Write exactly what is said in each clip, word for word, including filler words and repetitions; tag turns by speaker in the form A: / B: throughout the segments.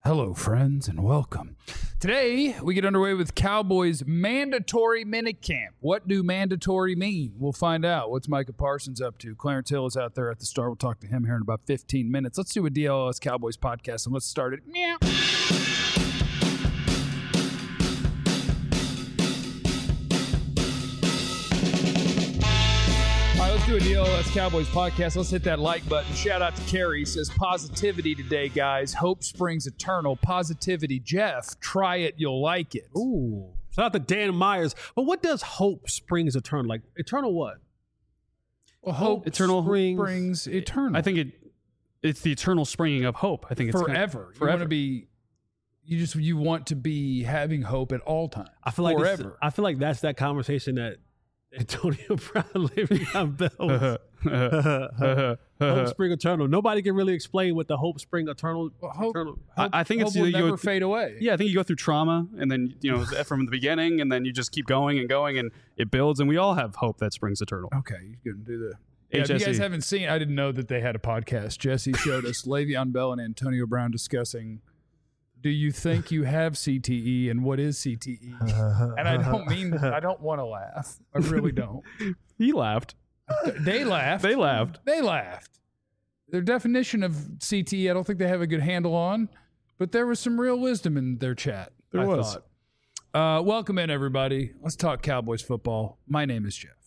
A: Hello, friends, and welcome. Today, we get underway with Cowboys mandatory minicamp. What do mandatory mean? We'll find out. What's Micah Parsons up to? Clarence Hill is out there at the start. We'll talk to him here in about fifteen minutes. Let's do a D L S Cowboys podcast, and let's start it. Meow. Let's do a D L S Cowboys podcast. Let's hit that like button. Shout out to Carrie. Says positivity today, guys. Hope springs eternal. Positivity. Jeff, try it. You'll like it.
B: Ooh. Shout out to Dan Myers. But what does hope springs eternal? Like eternal what?
A: Well, hope
C: eternal
A: springs, springs eternal.
C: I think it it's the eternal springing of hope. I think it's
A: forever.
C: Kind of,
A: forever. You
C: forever.
A: want to be. You just you want to be having hope at all times.
B: I feel like this-
A: forever.
B: I feel like that's that conversation that Antonio Brown, Le'Veon Bell. Hope spring eternal. Nobody can really explain what the hope spring eternal.
A: Well, hope,
B: eternal.
A: hope,
C: I, I think
A: hope
C: it's
A: will
C: you
A: never
C: go,
A: fade away.
C: Yeah, I think you go through trauma, and then you know from the beginning, and then you just keep going and going, and it builds, and we all have hope that springs eternal.
A: Okay, you can do the. Yeah, if
C: H S E.
A: you guys haven't seen, I didn't know that they had a podcast. Jesse showed us Le'Veon Bell and Antonio Brown discussing. Do you think you have C T E, and what is C T E? And I don't mean I don't want to laugh. I really don't.
C: He laughed.
A: They laughed.
C: They laughed.
A: They laughed. Their definition of C T E, I don't think they have a good handle on, but there was some real wisdom in their chat.
C: There
A: I
C: was.
A: thought. Uh, welcome in, everybody. Let's talk Cowboys football. My name is Jeff.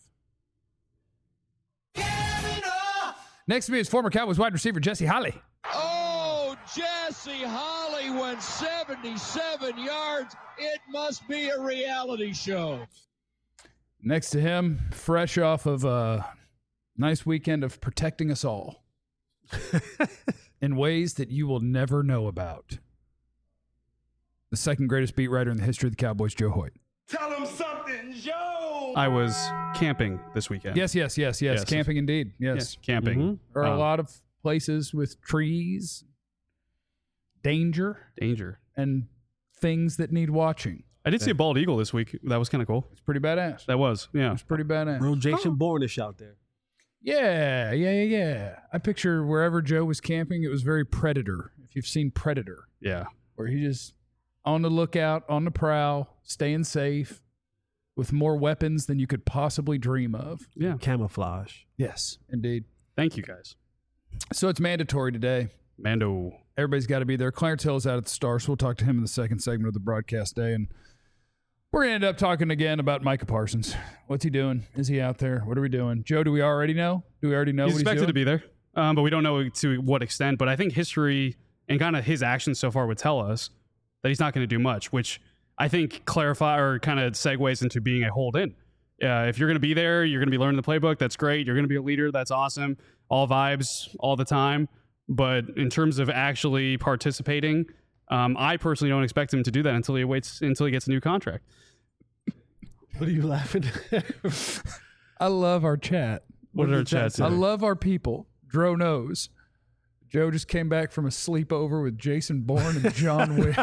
A: Next to me is former Cowboys wide receiver Jesse Holley.
D: Oh, Jesse Holley went seventy-seven yards. It must be a reality show.
A: Next to him, fresh off of a nice weekend of protecting us all in ways that you will never know about. The second greatest beat writer in the history of the Cowboys, Joe Hoyt.
E: Tell him something, Joe.
C: I was camping this weekend.
A: Yes, yes, yes, yes.
C: Yes.
A: Camping indeed.
C: Yeah,
A: Yes.
C: camping.
B: Mhm.
A: There are a
C: Um,
A: lot of places with trees, danger,
C: danger.
A: and things that need watching.
C: I did see a bald eagle this week. That was kind of cool.
A: It's pretty badass.
C: That was, yeah.
A: It's pretty badass.
B: Real Jason Bourne-ish out there.
A: Yeah, yeah, yeah, yeah. I picture wherever Joe was camping, it was very Predator. If you've seen Predator,
C: Yeah.
A: where he just on the lookout, on the prowl, staying safe, with more weapons than you could possibly dream of.
C: Yeah.
B: Camouflage.
A: Yes, indeed.
C: Thank you, guys.
A: So it's mandatory today.
C: Mando.
A: Everybody's got to be there. Clarence Hill is out at the Star, so we'll talk to him in the second segment of the broadcast day. And we're going to end up talking again about Micah Parsons. What's he doing? Is he out there? What are we doing? Joe, do we already know? Do we already know
C: He's
A: what he's
C: expected
A: doing?
C: to be there, um, but we don't know to what extent. But I think history and kind of his actions so far would tell us that he's not going to do much, which I think clarify or kind of segues into being a hold in. Uh, if you're going to be there, you're going to be learning the playbook. That's great. You're going to be a leader. That's awesome. All vibes all the time. But in terms of actually participating, um, I personally don't expect him to do that until he waits until he gets a new contract.
B: What are you laughing at?
A: I love our chat.
C: What did our
B: did the chat
C: chat
B: say?
A: I
C: say?
A: love our people. Dro knows. Joe just came back from a sleepover with Jason Bourne and John Wick.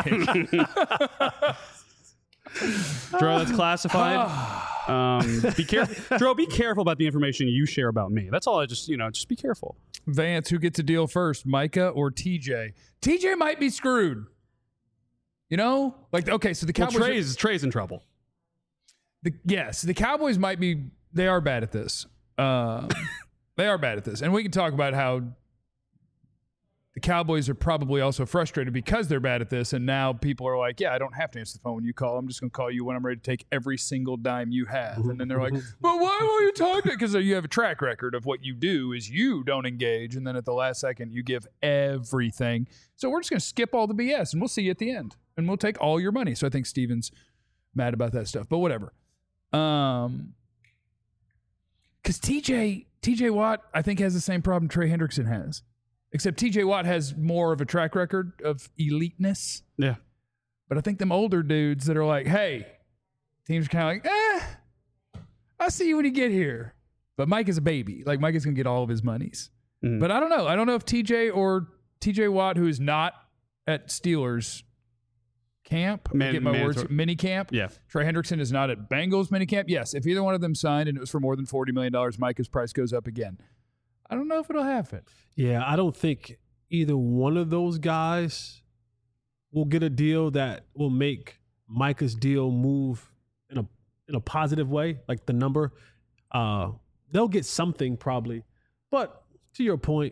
C: Dro, that's classified. um, be careful, Dro. Be careful about the information you share about me. That's all. I just, you know, just be careful.
A: Vance, who gets a deal first, Micah or T J? T J might be screwed. You know, like okay, so the
C: Well,
A: Cowboys.
C: Trey's Trey's in trouble.
A: The, yes, the Cowboys might be. They are bad at this. Um, they are bad at this, and we can talk about how the Cowboys are probably also frustrated because they're bad at this, and now people are like, "Yeah, I don't have to answer the phone when you call. I'm just going to call you when I'm ready to take every single dime you have." And then they're like, "But why won't you talk to?" Because you have a track record of what you do is you don't engage, and then at the last second you give everything. So we're just going to skip all the B S, and we'll see you at the end, and we'll take all your money. So I think Steven's mad about that stuff, but whatever. Um, because T J T J Watt, I think, has the same problem Trey Hendrickson has, except T J Watt has more of a track record of eliteness.
C: Yeah.
A: But I think them older dudes that are like, hey, teams are kind of like, eh, I'll see you when you get here. But Mike is a baby. Like, Mike is going to get all of his monies.
C: Mhm.
A: But I don't know. I don't know if T J or T J Watt, who is not at Steelers camp,
C: Man-
A: get my words,
C: mandatory-
A: mini camp.
C: Yeah.
A: Trey Hendrickson is not at Bengals mini camp. Yes, if either one of them signed and it was for more than forty million dollars, Micah's price goes up again. I don't know if it'll happen.
B: Yeah, I don't think either one of those guys will get a deal that will make Micah's deal move in a in a positive way, like the number. Uh, they'll get something probably. But to your point,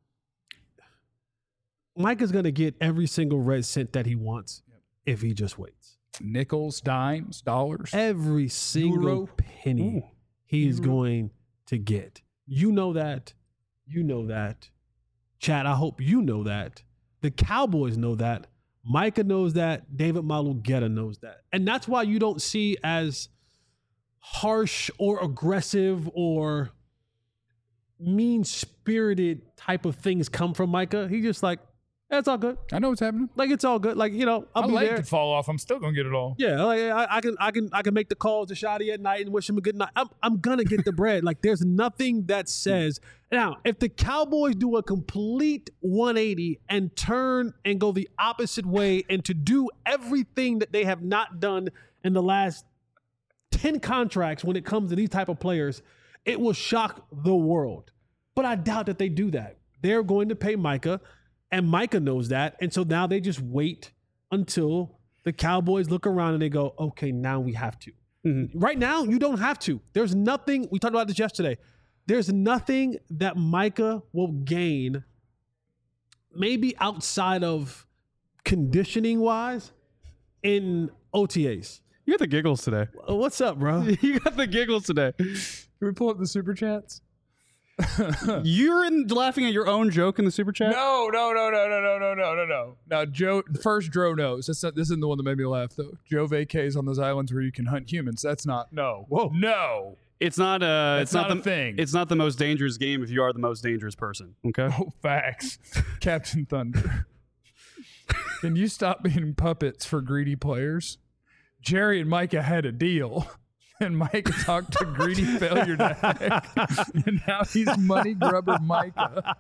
B: Micah's going to get every single red cent that he wants yep. if he just waits.
A: Nickels, dimes, dollars.
B: Every single Euro. penny Ooh. he's Euro. going to get. You know that. You know that. Chad, I hope you know that. The Cowboys know that. Micah knows that. David Malugeta knows that. And that's why you don't see as harsh or aggressive or mean-spirited type of things come from Micah. He's just like, eh, it's all good.
A: I know what's happening.
B: Like, it's all good. Like, you know, I'll
A: I
B: be
A: like
B: there.
A: to fall off. I'm still gonna get it all.
B: Yeah, like I, I can, I can, I can make the calls to Shadi at night and wish him a good night. I'm, I'm gonna get the bread. Like, there's nothing that says now if the Cowboys do a complete one eighty and turn and go the opposite way and to do everything that they have not done in the last ten contracts when it comes to these type of players, it will shock the world. But I doubt that they do that. They're going to pay Micah, and Micah knows that. And so now they just wait until the Cowboys look around and they go, okay, now we have to. Mm-hmm. Right now, you don't have to. There's nothing, we talked about this yesterday. There's nothing that Micah will gain, maybe outside of conditioning-wise, in O T As.
C: You got the giggles today.
B: What's up, bro?
C: You got the giggles today.
A: Can we pull up the super chats?
C: You're in laughing at your own joke in the super chat?
A: No, no, no, no, no, no, no, no, no, no. Now, Joe, first Dro knows. That's not, this isn't the one that made me laugh, though. Joe vacays on those islands where you can hunt humans. That's not, no.
B: Whoa.
A: No.
C: It's not, uh,
A: That's
C: it's not,
A: not
C: the
A: a thing.
C: It's not the most dangerous game if you are the most dangerous person, okay?
A: Oh, facts. Captain Thunder. Can you stop being puppets for greedy players? Jerry and Micah had a deal. And Micah talked to greedy failure Dak. And now he's money grubber Micah.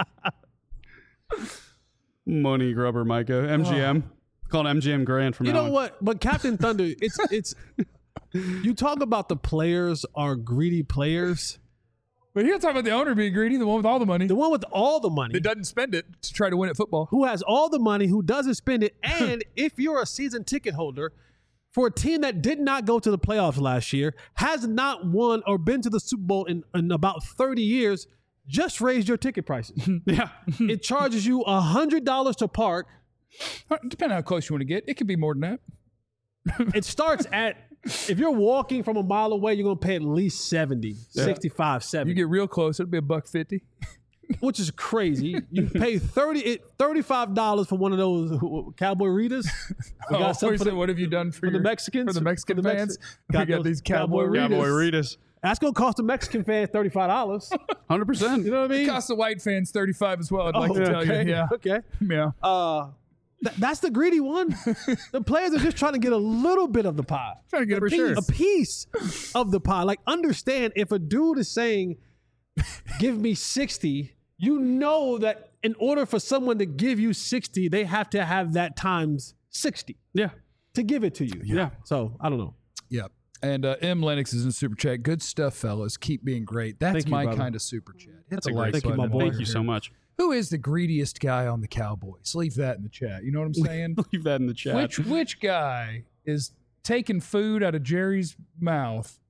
C: Money grubber Micah. M G M. Oh. Called M G M Grand from
B: You
C: now
B: know
C: on.
B: what? But Captain Thunder, it's it's you talk about the players are greedy players.
A: But you're talking about the owner being greedy, the one with all the money.
B: The one with all the money.
A: That doesn't spend it to try to win at football.
B: Who has all the money, who doesn't spend it. And if you're a season ticket holder, for a team that did not go to the playoffs last year, has not won or been to the Super Bowl in, in about thirty years, just raise your ticket prices.
C: Yeah.
B: It charges you one hundred dollars to park.
A: Depending on how close you want to get, it could be more than that.
B: It starts at, if you're walking from a mile away, you're going to pay at least seventy, yeah. sixty-five, seventy.
A: You get real close, it'll be a buck fifty.
B: Which is crazy. You pay thirty, thirty-five dollars for one of those Cowboy Ritas. We
A: got oh, something for the, what have you done for,
B: for
A: your,
B: the Mexicans?
A: For the Mexican
B: for the
A: fans?
B: Mexi-
A: got we got these Cowboy,
B: Cowboy
A: Ritas.
C: Cowboy Ritas.
B: That's going to cost the Mexican fans thirty-five dollars.
C: one hundred percent.
B: You know what I mean?
A: It costs the white fans thirty-five as well, I'd
B: oh,
A: like to
B: okay.
A: tell you. Yeah.
B: Okay.
A: Yeah.
B: Uh, th- that's the greedy one. The players are just trying to get a little bit of the pie.
A: Trying to get
B: a
A: a
B: piece,
A: sure.
B: a piece of the pie. Like, understand, if a dude is saying, give me sixty, you know that in order for someone to give you sixty, they have to have that times sixty.
C: Yeah.
B: To give it to you.
C: Yeah. yeah.
B: So, I don't know.
A: Yep. And uh, M. Lennox is in super chat. Good stuff, fellas. Keep being great. That's
B: Thank
A: my
B: you,
A: kind of super chat.
C: That's
A: Hit
C: a great
B: Thank you, my boy.
C: Thank you so much.
A: Who is the greediest guy on the Cowboys? Leave that in the chat. You know what I'm saying?
C: Leave that in the chat.
A: Which which guy is taking food out of Jerry's mouth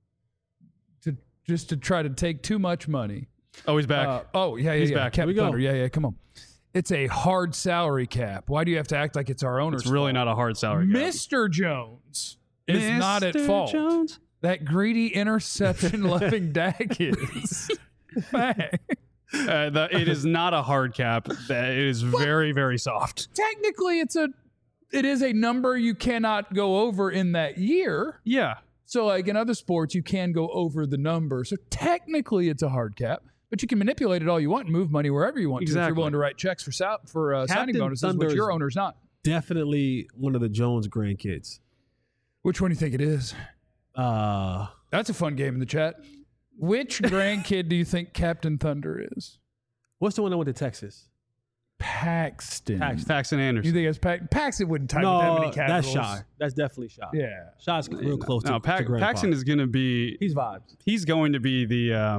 A: to just to try to take too much money?
C: Oh, he's back.
A: Uh, oh, yeah, yeah,
C: He's
A: yeah.
C: back.
A: Captain
B: Here we go.
A: Thunder. Yeah, yeah, come on. It's a hard salary cap. Why do you have to act like it's our owner's
C: It's really
A: fault?
C: not a hard salary cap.
A: Mister Jones is
C: Mister
A: not at fault.
C: Jones?
A: That greedy interception-loving Dak is. Fact.
C: Uh, the, it is not a hard cap. That it is very, very soft.
A: Technically, it's a, it is a number you cannot go over in that year.
C: Yeah.
A: So, like in other sports, you can go over the number. So technically, it's a hard cap, but you can manipulate it all you want and move money wherever you want to if
C: Exactly.
A: you're willing to write checks for sal- for uh, signing
B: Captain
A: bonuses,
B: Thunder
A: which your
B: is-
A: owner's not.
B: Definitely one of the Jones grandkids.
A: Which one do you think it is?
B: Uh,
A: That's a fun game in the chat. Which grandkid do you think Captain Thunder is?
B: what's the one that went to Texas?
A: Paxton.
B: Paxton.
C: Paxton
A: You
C: Anderson.
A: think it's Paxton? Paxton wouldn't type
B: No,
A: with that many
B: that's
A: capitals.
B: Shy. That's definitely Shy.
A: Yeah.
B: Shy's real close
C: no,
B: to,
C: Pa-
B: to grandpa.
C: Paxton is going to be.
B: He's vibes.
C: He's going to be the um,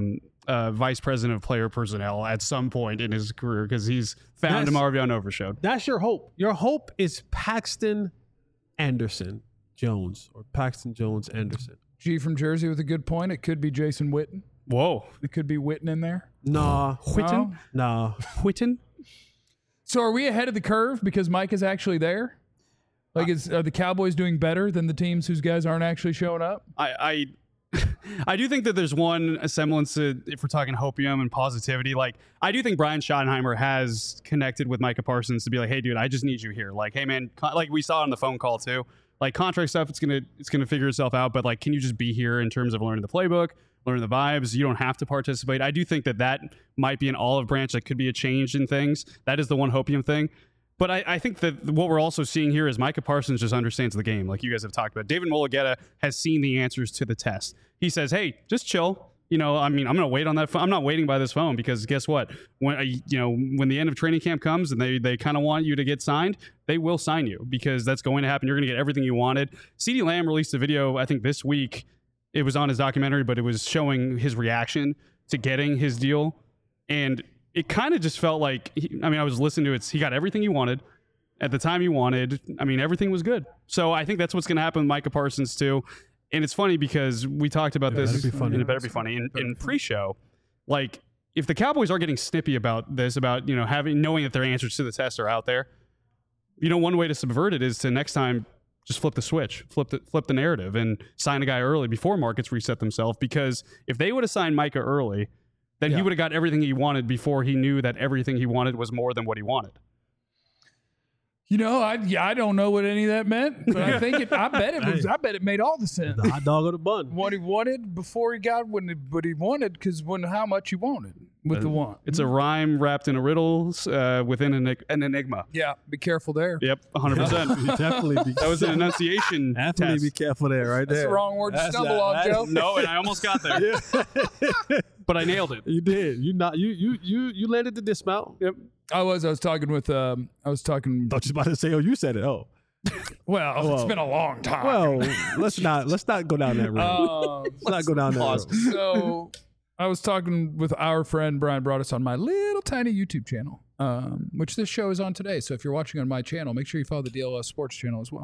C: uh, vice president of player personnel at some point in his career because he's found
B: That's-
C: Marvion Overshowed.
B: That's your hope. Your hope is Paxton Anderson Jones or Paxton Jones Anderson.
A: G from Jersey with a good point. It could be Jason Witten.
C: Whoa.
A: It could be Witten in there.
B: Nah.
C: Whitten?
B: Nah.
C: Whitten?
A: So are we ahead of the curve because Mike is actually there? Like, is are the Cowboys doing better than the teams whose guys aren't actually showing up?
C: I, I I do think that there's one semblance to, if we're talking hopium and positivity, like I do think Brian Schottenheimer has connected with Micah Parsons to be like, hey dude, I just need you here. Like, hey man, con- like we saw on the phone call too, like contract stuff, it's gonna it's gonna figure itself out. But like, can you just be here in terms of learning the playbook, learning the vibes? You don't have to participate. I do think that that might be an olive branch that could be a change in things. That is the one hopium thing. But I, I think that what we're also seeing here is Micah Parsons just understands the game, like you guys have talked about. David Mulugeta has seen the answers to the test. He says, hey, just chill. You know, I mean, I'm going to wait on that phone. I'm not waiting by this phone because guess what? When uh, you know, when the end of training camp comes and they they kind of want you to get signed, they will sign you because that's going to happen. You're going to get everything you wanted. CeeDee Lamb released a video, I think this week. It was on his documentary, but it was showing his reaction to getting his deal. And it kind of just felt like, he, I mean, I was listening to it. He got everything he wanted at the time he wanted. I mean, everything was good. So I think that's what's going to happen with Micah Parsons too. And it's funny because we talked about
B: It
C: this.
B: better be funny.
C: and It better be funny. In, in pre-show, like if the Cowboys are getting snippy about this, about, you know, having, knowing that their answers to the test are out there, you know, one way to subvert it is to next time just flip the switch, flip the, flip the narrative and sign a guy early before markets reset themselves. Because if they would have signed Micah early, then
A: Yeah.
C: he would have got everything he wanted before he knew that everything he wanted was more than what he wanted.
A: You know, I yeah, I don't know what any of that meant, but I think it. I bet it was. I bet it made all the sense.
B: The hot dog or the bun.
A: What he wanted before he got what he, what he wanted, because when how much he wanted with the want.
C: It's a rhyme wrapped in a riddle uh, within an, an enigma.
A: Yeah, be careful there.
C: Yep, one hundred percent.
B: Definitely be
C: That was an enunciation
B: Definitely
C: test.
B: be careful there, right
A: That's
B: there.
A: the wrong word to
B: That's
A: stumble
B: not-
A: on,
B: that's-
A: Joe.
C: No, and I almost got there, but I nailed it.
B: You did. You not. You you you you landed the dismount.
C: Yep.
A: I was. I was talking with. Um, I was talking.
B: Thought you was about to say, "Oh, you said it." Oh,
A: Well, it's
B: Well.
A: been a long time.
B: well, let's not let's not go down that road.
A: Um,
B: let's not go down that
C: pause.
B: road.
A: so I was talking with our friend Brian brought us on my little tiny YouTube channel, um, which this show is on today. So if you're watching on my channel, make sure you follow the D L S Sports channel as well.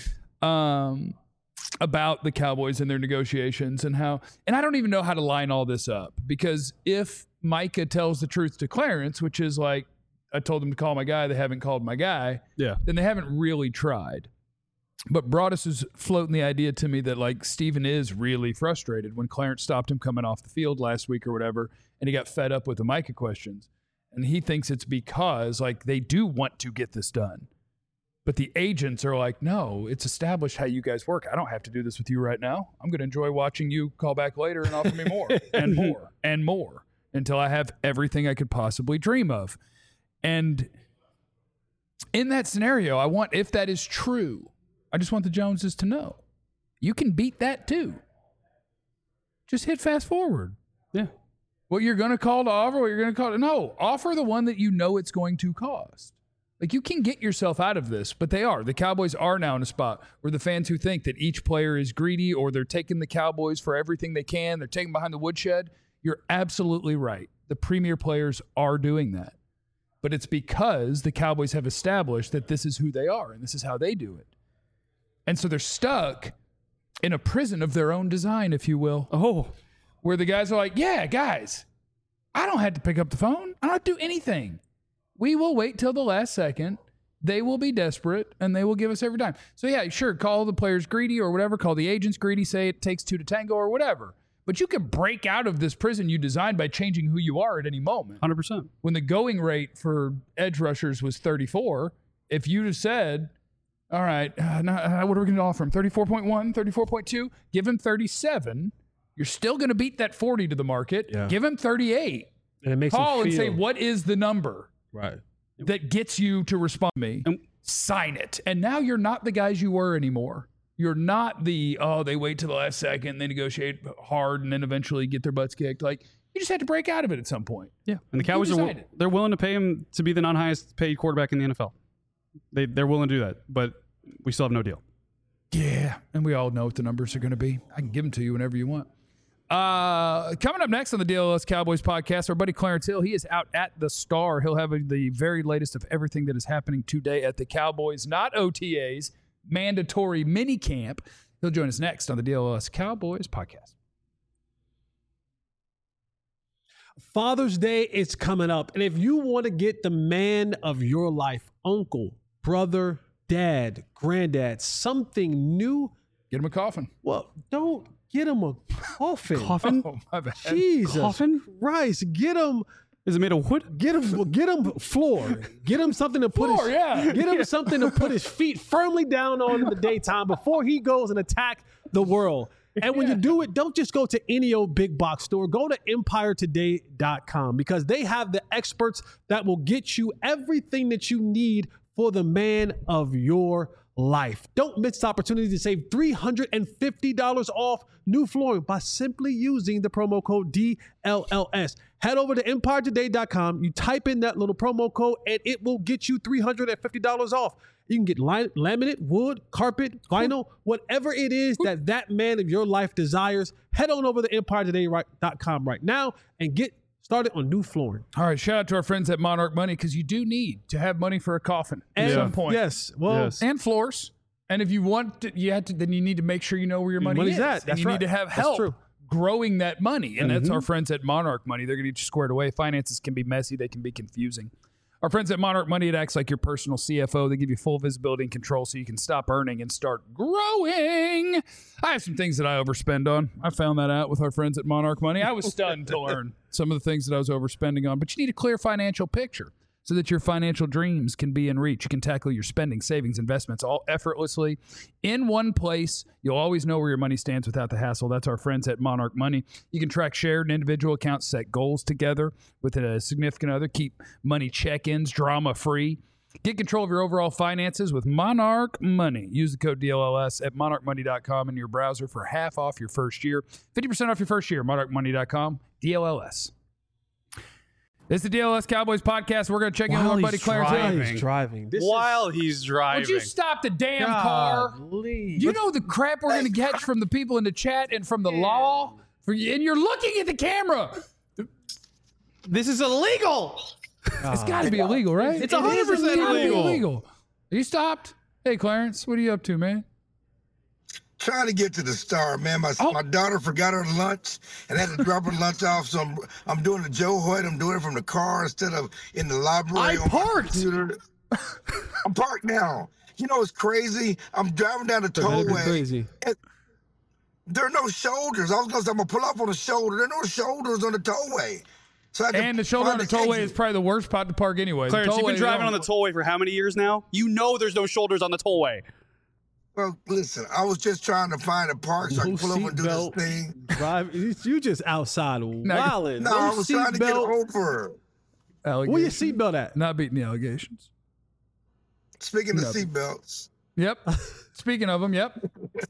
A: Um, about the Cowboys and their negotiations and how, and I don't even know how to line all this up because if Micah tells the truth to Clarence, which is like, I told them to call my guy, they haven't called my guy,
C: Yeah.
A: then they haven't really tried. But Broadus was floating the idea to me that like Steven is really frustrated when Clarence stopped him coming off the field last week or whatever, and he got fed up with the Micah questions. And he thinks it's because like they do want to get this done. But the agents are like, no, it's established how you guys work. I don't have to do this with you right now. I'm going to enjoy watching you call back later and offer me more and more and more until I have everything I could possibly dream of. And in that scenario, I want, if that is true, I just want the Joneses to know you can beat that too. Just hit fast forward.
C: Yeah.
A: What you're going to call to offer, what you're going to call to, no, offer the one that you know it's going to cost. Like you can get yourself out of this, but they are. The Cowboys are now in a spot where the fans who think that each player is greedy or they're taking the Cowboys for everything they can, they're taking behind the woodshed. You're absolutely right. The premier players are doing that. But it's because the Cowboys have established that this is who they are and this is how they do it. And so they're stuck in a prison of their own design, if you will.
C: Oh,
A: Where the guys are like, yeah, guys, I don't have to pick up the phone. I don't have to do anything. We will wait till the last second. They will be desperate, and they will give us every time. So, yeah, sure, call the players greedy or whatever. Call the agents greedy. Say it takes two to tango or whatever. But you can break out of this prison you designed by changing who you are at any moment.
C: one hundred percent.
A: When the going rate for edge rushers was thirty-four, if you just said, all right, uh, now, uh, what are we going to offer him? thirty-four point one, thirty-four point two? Give him thirty-seven. You're still going to beat that forty to the market.
B: Yeah.
A: Give him thirty-eight.
B: And it makes
A: Call
B: them
A: and
B: feel,
A: say, what is the number
B: right.
A: that gets you to respond to me?
C: And-
A: Sign it. And now you're not the guys you were anymore. You're not the, oh, they wait till the last second, they negotiate hard, and then eventually get their butts kicked. Like, you just had to break out of it at some point.
C: Yeah, and the Cowboys are
A: decided?
C: they're willing to pay him to be the non-highest paid quarterback in the N F L. They they're willing to do that, but we still have no deal.
A: Yeah. And we all know what the numbers are going to be. I can give them to you whenever you want. Uh, coming up next on the D L S Cowboys podcast, our buddy Clarence Hill. He is out at the Star. He'll have the very latest of everything that is happening today at the Cowboys, not O T As, mandatory mini camp. He'll join us next on the D L S Cowboys podcast.
B: Father's Day is coming up, and if you want to get the man of your life, uncle, brother, dad, granddad, something new,
A: Get him a coffin.
B: well, don't get him a coffin.
C: Coffin?
A: Oh, my bad.
B: Jesus
C: Coffin?
B: Christ, get him,
C: Is it made of wood?
B: get him, get him floor. Get him something to put
A: Floor,
B: his,
A: yeah.
B: get him something to put his feet firmly down on in the daytime before he goes and attack the world. And when you do it, don't just go to any old big box store. Go to empire today dot com because they have the experts that will get you everything that you need for the man of your life. Don't miss the opportunity to save three hundred fifty dollars off new flooring by simply using the promo code D L L S. Head over to empire today dot com. You type in that little promo code and it will get you three hundred fifty dollars off. You can get li- laminate, wood, carpet, vinyl, whatever it is that that man of your life desires. Head on over to empire today dot com right now and get started on new flooring.
A: All right, shout out to our friends at Monarch Money because you do need to have money for a coffin at
B: And
A: some point.
B: yes, well,
C: Yes.
A: And floors. And if you want to, you have to, then you need to make sure you know where your money
B: money's
A: is.
B: at.
A: And
B: That's
A: you
B: right.
A: need to have
B: That's
A: help
B: true.
A: growing that money. And that's our friends at Monarch Money. They're going to get you squared away. Finances can be messy. They can be confusing. Our friends at Monarch Money, it acts like your personal C F O. They give you full visibility and control so you can stop earning and start growing. I have some things that I overspend on. I found that out with our friends at Monarch Money. I was stunned to learn some of the things that I was overspending on. But you need a clear financial picture so that your financial dreams can be in reach. You can tackle your spending, savings, investments all effortlessly in one place. You'll always know where your money stands without the hassle. That's our friends at Monarch Money. You can track shared and individual accounts, set goals together with a significant other, keep money check-ins drama-free. Get control of your overall finances with Monarch Money. Use the code D L L S at monarch money dot com in your browser for half off your first year. fifty percent off your first year, monarch money dot com, D L L S. This is the D L S Cowboys podcast. We're going to check in with our buddy Clarence Hill.
C: driving.
B: He's driving. This
C: While
B: is,
C: he's driving.
A: Would you stop the damn car?
B: Golly.
A: Do you know the crap we're going to get from the people in the chat and from the law? For you, and you're looking at the camera.
C: This is illegal.
A: It's got to be illegal, right?
C: It's one hundred percent
A: gotta be
C: illegal.
A: illegal. You stopped? Hey, Clarence, what are you up to, man?
F: Trying to get to the Star, man. My
A: Oh.
F: my daughter forgot her lunch and had to drop her lunch off. So I'm I'm doing the Joe Hoyt. I'm doing it from the car instead of in the library.
C: I
F: on my
C: parked.
F: computer. I'm parked now. You know what's crazy? I'm driving down the
B: That'd be
F: tollway.
B: crazy.
F: and There are no shoulders. I was gonna say I'm gonna pull up on the shoulder. There are no shoulders on the tollway. So I had to
A: And the shoulder on
F: find
A: the tollway
F: exit.
A: is probably the worst spot to park anyway. The
C: Clarence, you've
A: tollway,
C: been driving
A: they
C: on the
A: don't-
C: tollway for how many years now? You know there's no shoulders on the tollway.
F: Well, listen, I was just trying to find a park so I
B: No
F: can pull up and do this
B: seatbelt.
F: thing.
B: Drive. You you just outside wilding.
F: No, I was trying to get over.
B: Where your
A: Allegations.
B: seatbelt at?
A: Not beating the allegations.
F: Speaking of
A: Nothing.
F: seatbelts.
A: Yep. Speaking of them, yep.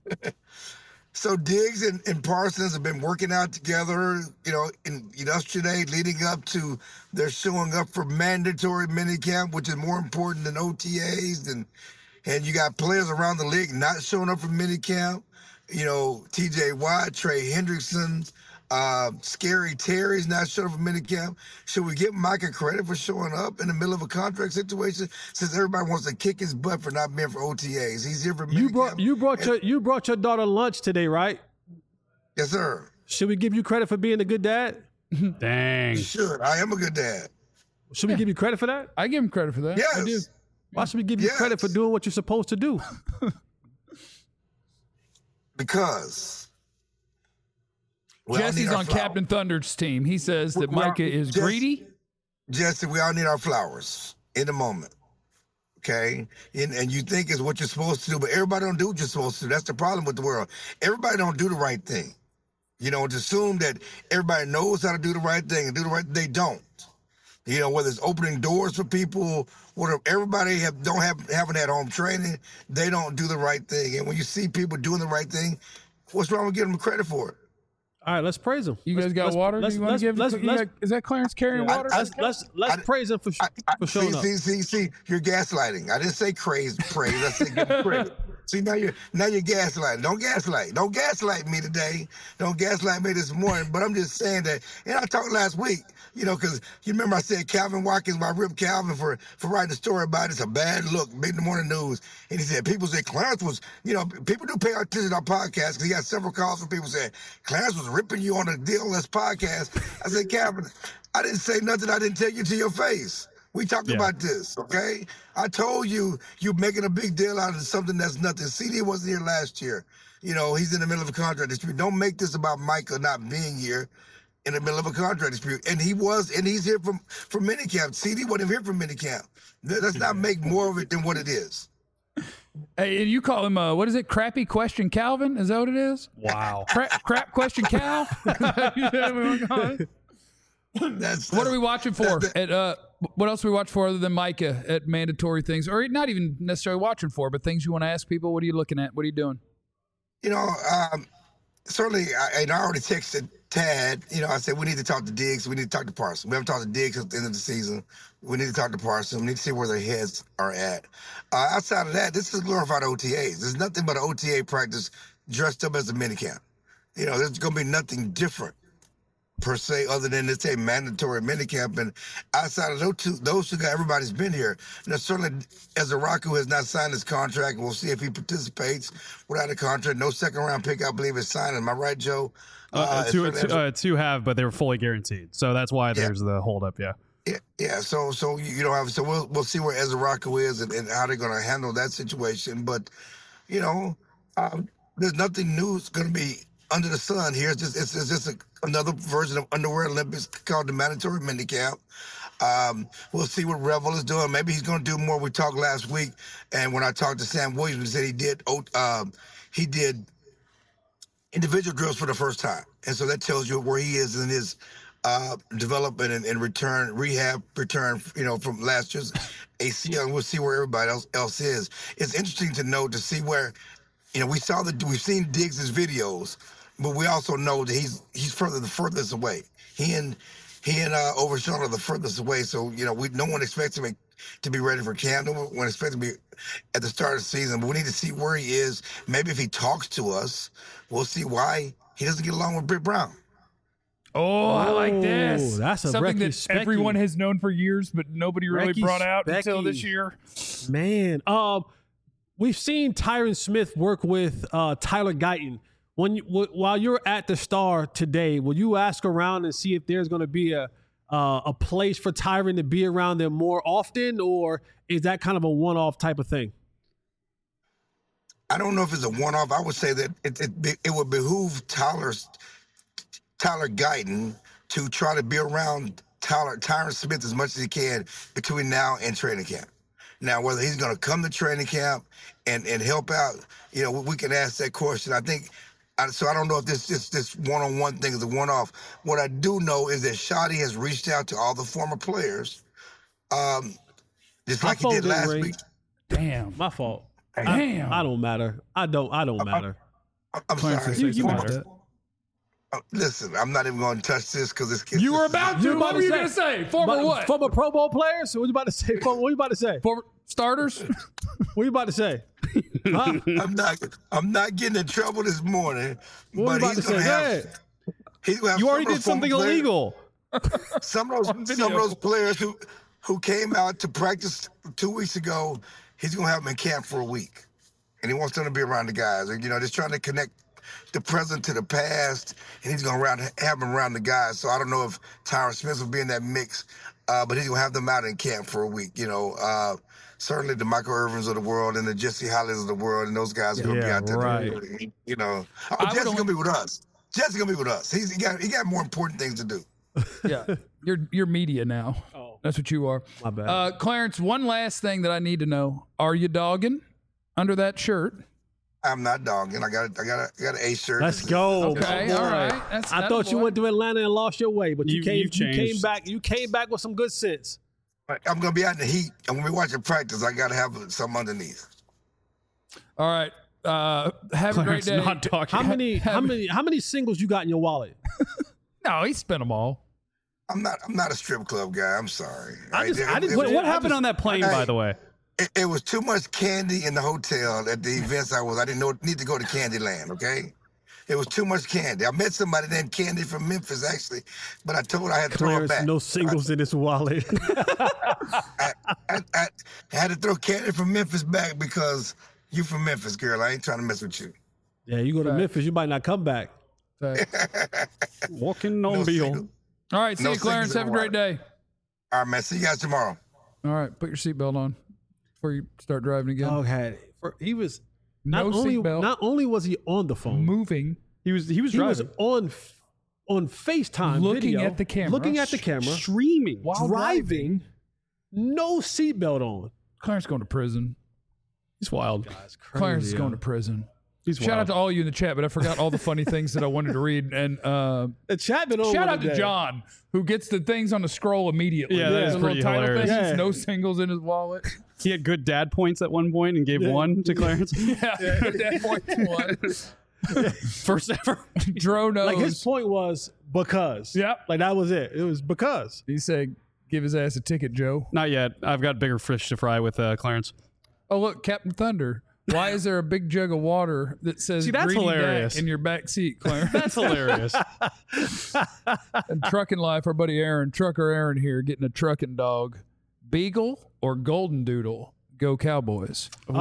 F: So Diggs and, and Parsons have been working out together, you know, in yesterday leading up to their showing up for mandatory minicamp, which is more important than O T As. And and you got players around the league not showing up for minicamp. You know, T J Watt, Trey Hendrickson, uh, Scary Terry's not showing up for minicamp. Should we give Micah credit for showing up in the middle of a contract situation since everybody wants to kick his butt for not being for O T As? He's here for minicamp.
B: You brought you brought your you brought your daughter lunch today, right?
F: Yes, sir.
B: Should we give you credit for being a good dad?
C: Dang.
F: Should. I am a good dad.
B: Should we give you credit for that?
A: I give him credit for that.
F: Yes.
A: I do.
B: Why should we give you
F: Yes.
B: credit for doing what you're supposed to do?
F: Because we all
A: Jesse's
F: need our
A: on
F: flowers.
A: Captain Thunder's team. He says that
F: We- we are-
A: Micah is
F: Jesse-
A: greedy.
F: Jesse, we all need our flowers in the moment. Okay? And, and you think is what you're supposed to do, but everybody don't do what you're supposed to do. That's the problem with the world. Everybody don't do the right thing. You know, to assume that everybody knows how to do the right thing and do the right they don't. You know, whether it's opening doors for people, whatever, everybody have don't have haven't had home training, they don't do the right thing. And when you see people doing the right thing, what's wrong with giving them credit for it?
B: All right, let's praise him.
A: You guys
B: Let's-
A: got
B: let's-
A: water?
B: Let's,
A: you want
B: let's,
A: to give?
B: let's,
A: you
B: let's,
A: got- is that Clarence carrying
F: I-
A: water?
F: I-
B: let's, let's, let's
F: I-
B: praise him for, sh-
F: I, I,
B: for showing
F: see,
B: up.
F: see, see, see, you're gaslighting. I didn't say craze, praise. I said give him credit. See, now you're now you're gaslighting. Don't gaslight. Don't gaslight me today. Don't gaslight me this morning. But I'm just saying that. And I talked last week, you know, because you remember I said Calvin Watkins, I ripped Calvin for for writing a story about it. It's a bad look. Big in the morning news. And he said people said Clarence was, you know, people do pay attention to our podcast because he got several calls from people saying Clarence was ripping you on a D L S podcast. I said, Calvin, I didn't say nothing I didn't tell you to your face. We talked yeah. about this, okay? I told you you're making a big deal out of something that's nothing. C D wasn't here last year. You know, he's in the middle of a contract dispute. Don't make this about Micah not being here in the middle of a contract dispute. And he was, and he's here from, from minicamp. C D wasn't here from minicamp. Let's not make more of it than what it is.
A: Hey, you call him, uh, what is it, Crappy Question Calvin? Is that what it is?
C: Wow.
A: Crap, crap Question Cal? That's, what are we watching for? That, that, at uh, what else are we watch for other than Micah at mandatory things, or not even necessarily watching for, but things you want to ask people? What are you looking at? What are you doing?
F: You know, um, certainly, I, I already texted Tad. You know, I said we need to talk to Diggs. We need to talk to Parsons. We haven't talked to Diggs at the end of the season. We need to talk to Parsons. We need to see where their heads are at. Uh, outside of that, this is glorified O T As. There's nothing but an O T A practice dressed up as a minicamp. You know, there's going to be nothing different per se, other than it's a mandatory minicamp. And outside of those two, those two guys, everybody's been here. Now, certainly, Ezaraku has not signed his contract. We'll see if he participates without a contract. No second round pick, I believe, is signed. Am I right, Joe?
C: Uh, uh, two, two, uh, two have, but they were fully guaranteed. So that's why there's yeah. the holdup. Yeah.
F: Yeah, yeah. So, so you don't have. So we'll we'll see where Ezaraku is and, and how they're going to handle that situation. But, you know, um, there's nothing new that's going to be under the sun here. It's just it's, it's just a, another version of Underwear Olympics called the mandatory minicamp. Um, we'll see what Revel is doing. Maybe he's going to do more. We talked last week, and when I talked to Sam Williams, he said he did um, he did individual drills for the first time, and so that tells you where he is in his uh, development and, and return, rehab, return. You know, from last year's A C L. And we'll see where everybody else else is. It's interesting to know to see where, you know, we saw that we've seen Diggs' videos. But we also know that he's he's further the furthest away. He and he and uh, Overshawn are the furthest away. So you know, we no one expects him to be ready for camp. No one expects him to be at the start of the season. But we need to see where he is. Maybe if he talks to us, we'll see why he doesn't get along with Britt Brown.
A: Oh, I like this.
B: That's a
A: something that
B: Specky.
A: everyone has known for years, but nobody really
B: Recky
A: brought out
B: Specky.
A: until this year.
B: Man, um, we've seen Tyron Smith work with uh, Tyler Guyton. When you, w- while you're at the Star today, will you ask around and see if there's going to be a uh, a place for Tyron to be around them more often, or is that kind of a one-off type of thing?
F: I don't know if it's a one-off. I would say that it it, it would behoove Tyler's Tyler Guyton to try to be around Tyler Tyron Smith as much as he can between now and training camp. Now, whether he's going to come to training camp and, and help out, you know, we can ask that question. I think. So I don't know if this this this one-on-one thing is a one-off. What I do know is that Shotty has reached out to all the former players, um, just like he did last ring. week.
A: Damn,
B: my fault.
A: Damn,
B: I, I don't matter. I don't. I don't matter.
F: I, I'm sorry.
A: You, you matter.
F: Uh, listen, I'm not even going to touch this because it's.
A: You were about to. What were you going to say? Former
B: but,
A: what?
B: Former Pro Bowl players. What you about to say? What you about to say?
A: Former starters.
B: What you about to say?
F: Huh? I'm not. I'm not getting in trouble this morning.
B: What
F: but
B: you about
F: he's
B: to
F: gonna
B: say?
F: have, he's gonna have
B: you already
F: some
B: did something
F: players,
B: illegal.
F: Some of those, some of those players who who came out to practice two weeks ago, he's gonna have them in camp for a week, and he wants them to be around the guys. You know, just trying to connect the present to the past, and he's gonna around, have them around the guys. So I don't know if Tyron Smith will be in that mix, uh, but he's gonna have them out in camp for a week. You know. Uh, Certainly the Michael Irvins of the world and the Jesse Hollies of the world, and those guys are going to
B: yeah,
F: be out there.
B: Right.
F: You know, oh, Jesse's going to be with us. Jesse's going to be with us. He's, he got he got more important things to do.
A: Yeah, you're you're media now.
B: Oh,
A: that's what you are.
B: My bad.
A: Uh, Clarence, one last thing that I need to know: are you dogging under that shirt?
F: I'm not dogging. I got I got a, I got an A shirt.
B: Let's go.
A: Okay, all right. That's,
B: I thought you went to Atlanta and lost your way, but you,
C: You-
B: came
C: you've
B: you came
C: changed.
B: back you came back with some good sense.
F: I'm going to be out in the heat, and when we watch practice, I got to have something underneath.
A: All right. Uh, have
C: Clarence
A: a great day.
C: not talking.
B: How many how many how many singles you got in your wallet?
A: No, he spent them all.
F: I'm not I'm not a strip club guy. I'm sorry.
B: I just- I didn't-
C: What, what
B: I
C: happened
B: just-
C: on that plane,
F: I-
C: by the way?
F: it, it was too much candy in the hotel at the events I was. I didn't know need to go to Candyland. Okay, it was too much candy. I met somebody named Candy from Memphis actually, but I told her I had to throw it
B: Clarence,
F: back.
B: no singles in his wallet.
F: I, I, I had to throw Candy from Memphis back because you from Memphis, girl. I ain't trying to mess with you.
B: Yeah, you go to
A: Right.
B: Memphis, you might not come back.
C: Walking on
F: No
C: Beale.
F: single.
A: All right, see
F: No
A: you, Clarence.
F: singles in
A: Have a
F: the
A: great day.
F: All right, man. See you guys tomorrow.
A: All right, put your seatbelt on before you start driving again.
B: Okay, For, he was not
A: no
B: only
A: seatbelt.
B: not only was he on the phone,
A: Moving.
C: He was he was
B: he was
C: driving,
B: on f- on FaceTime,
A: Looking
B: video,
A: at the camera.
B: looking at the camera,
C: streaming.
A: While
B: driving, no seatbelt on.
A: Clarence going to prison.
C: He's wild.
A: Clarence is going to prison.
C: He's
A: Shout
C: wild.
A: out to all you in the chat, but I forgot all the funny things that I wanted to read. And uh,
B: The chat been on
A: shout
B: one
A: out to
B: today.
A: John, who gets the things on the scroll immediately.
C: Yeah, that
A: The
C: is
A: little
C: pretty
A: title
C: hilarious.
A: things,
B: Yeah.
A: no singles in his wallet.
C: He had good dad points at one point and gave
B: Yeah.
C: one to Clarence.
A: yeah, that point one.
C: First ever.
A: Dro knows.
B: Like his point was because.
A: Yep.
B: Like that was it. It was because.
A: He said, "Give his ass a ticket, Joe."
C: Not yet. I've got bigger fish to fry with uh, Clarence.
A: Oh look, Captain Thunder. Why is there a big jug of water that says
C: See, that's
A: Greedy Dak
C: hilarious.
A: in your back seat, Clarence?
C: That's hilarious.
A: And trucking life, our buddy Aaron, trucker Aaron here, getting a trucking dog. Beagle or Golden Doodle? Go Cowboys.
B: Oh,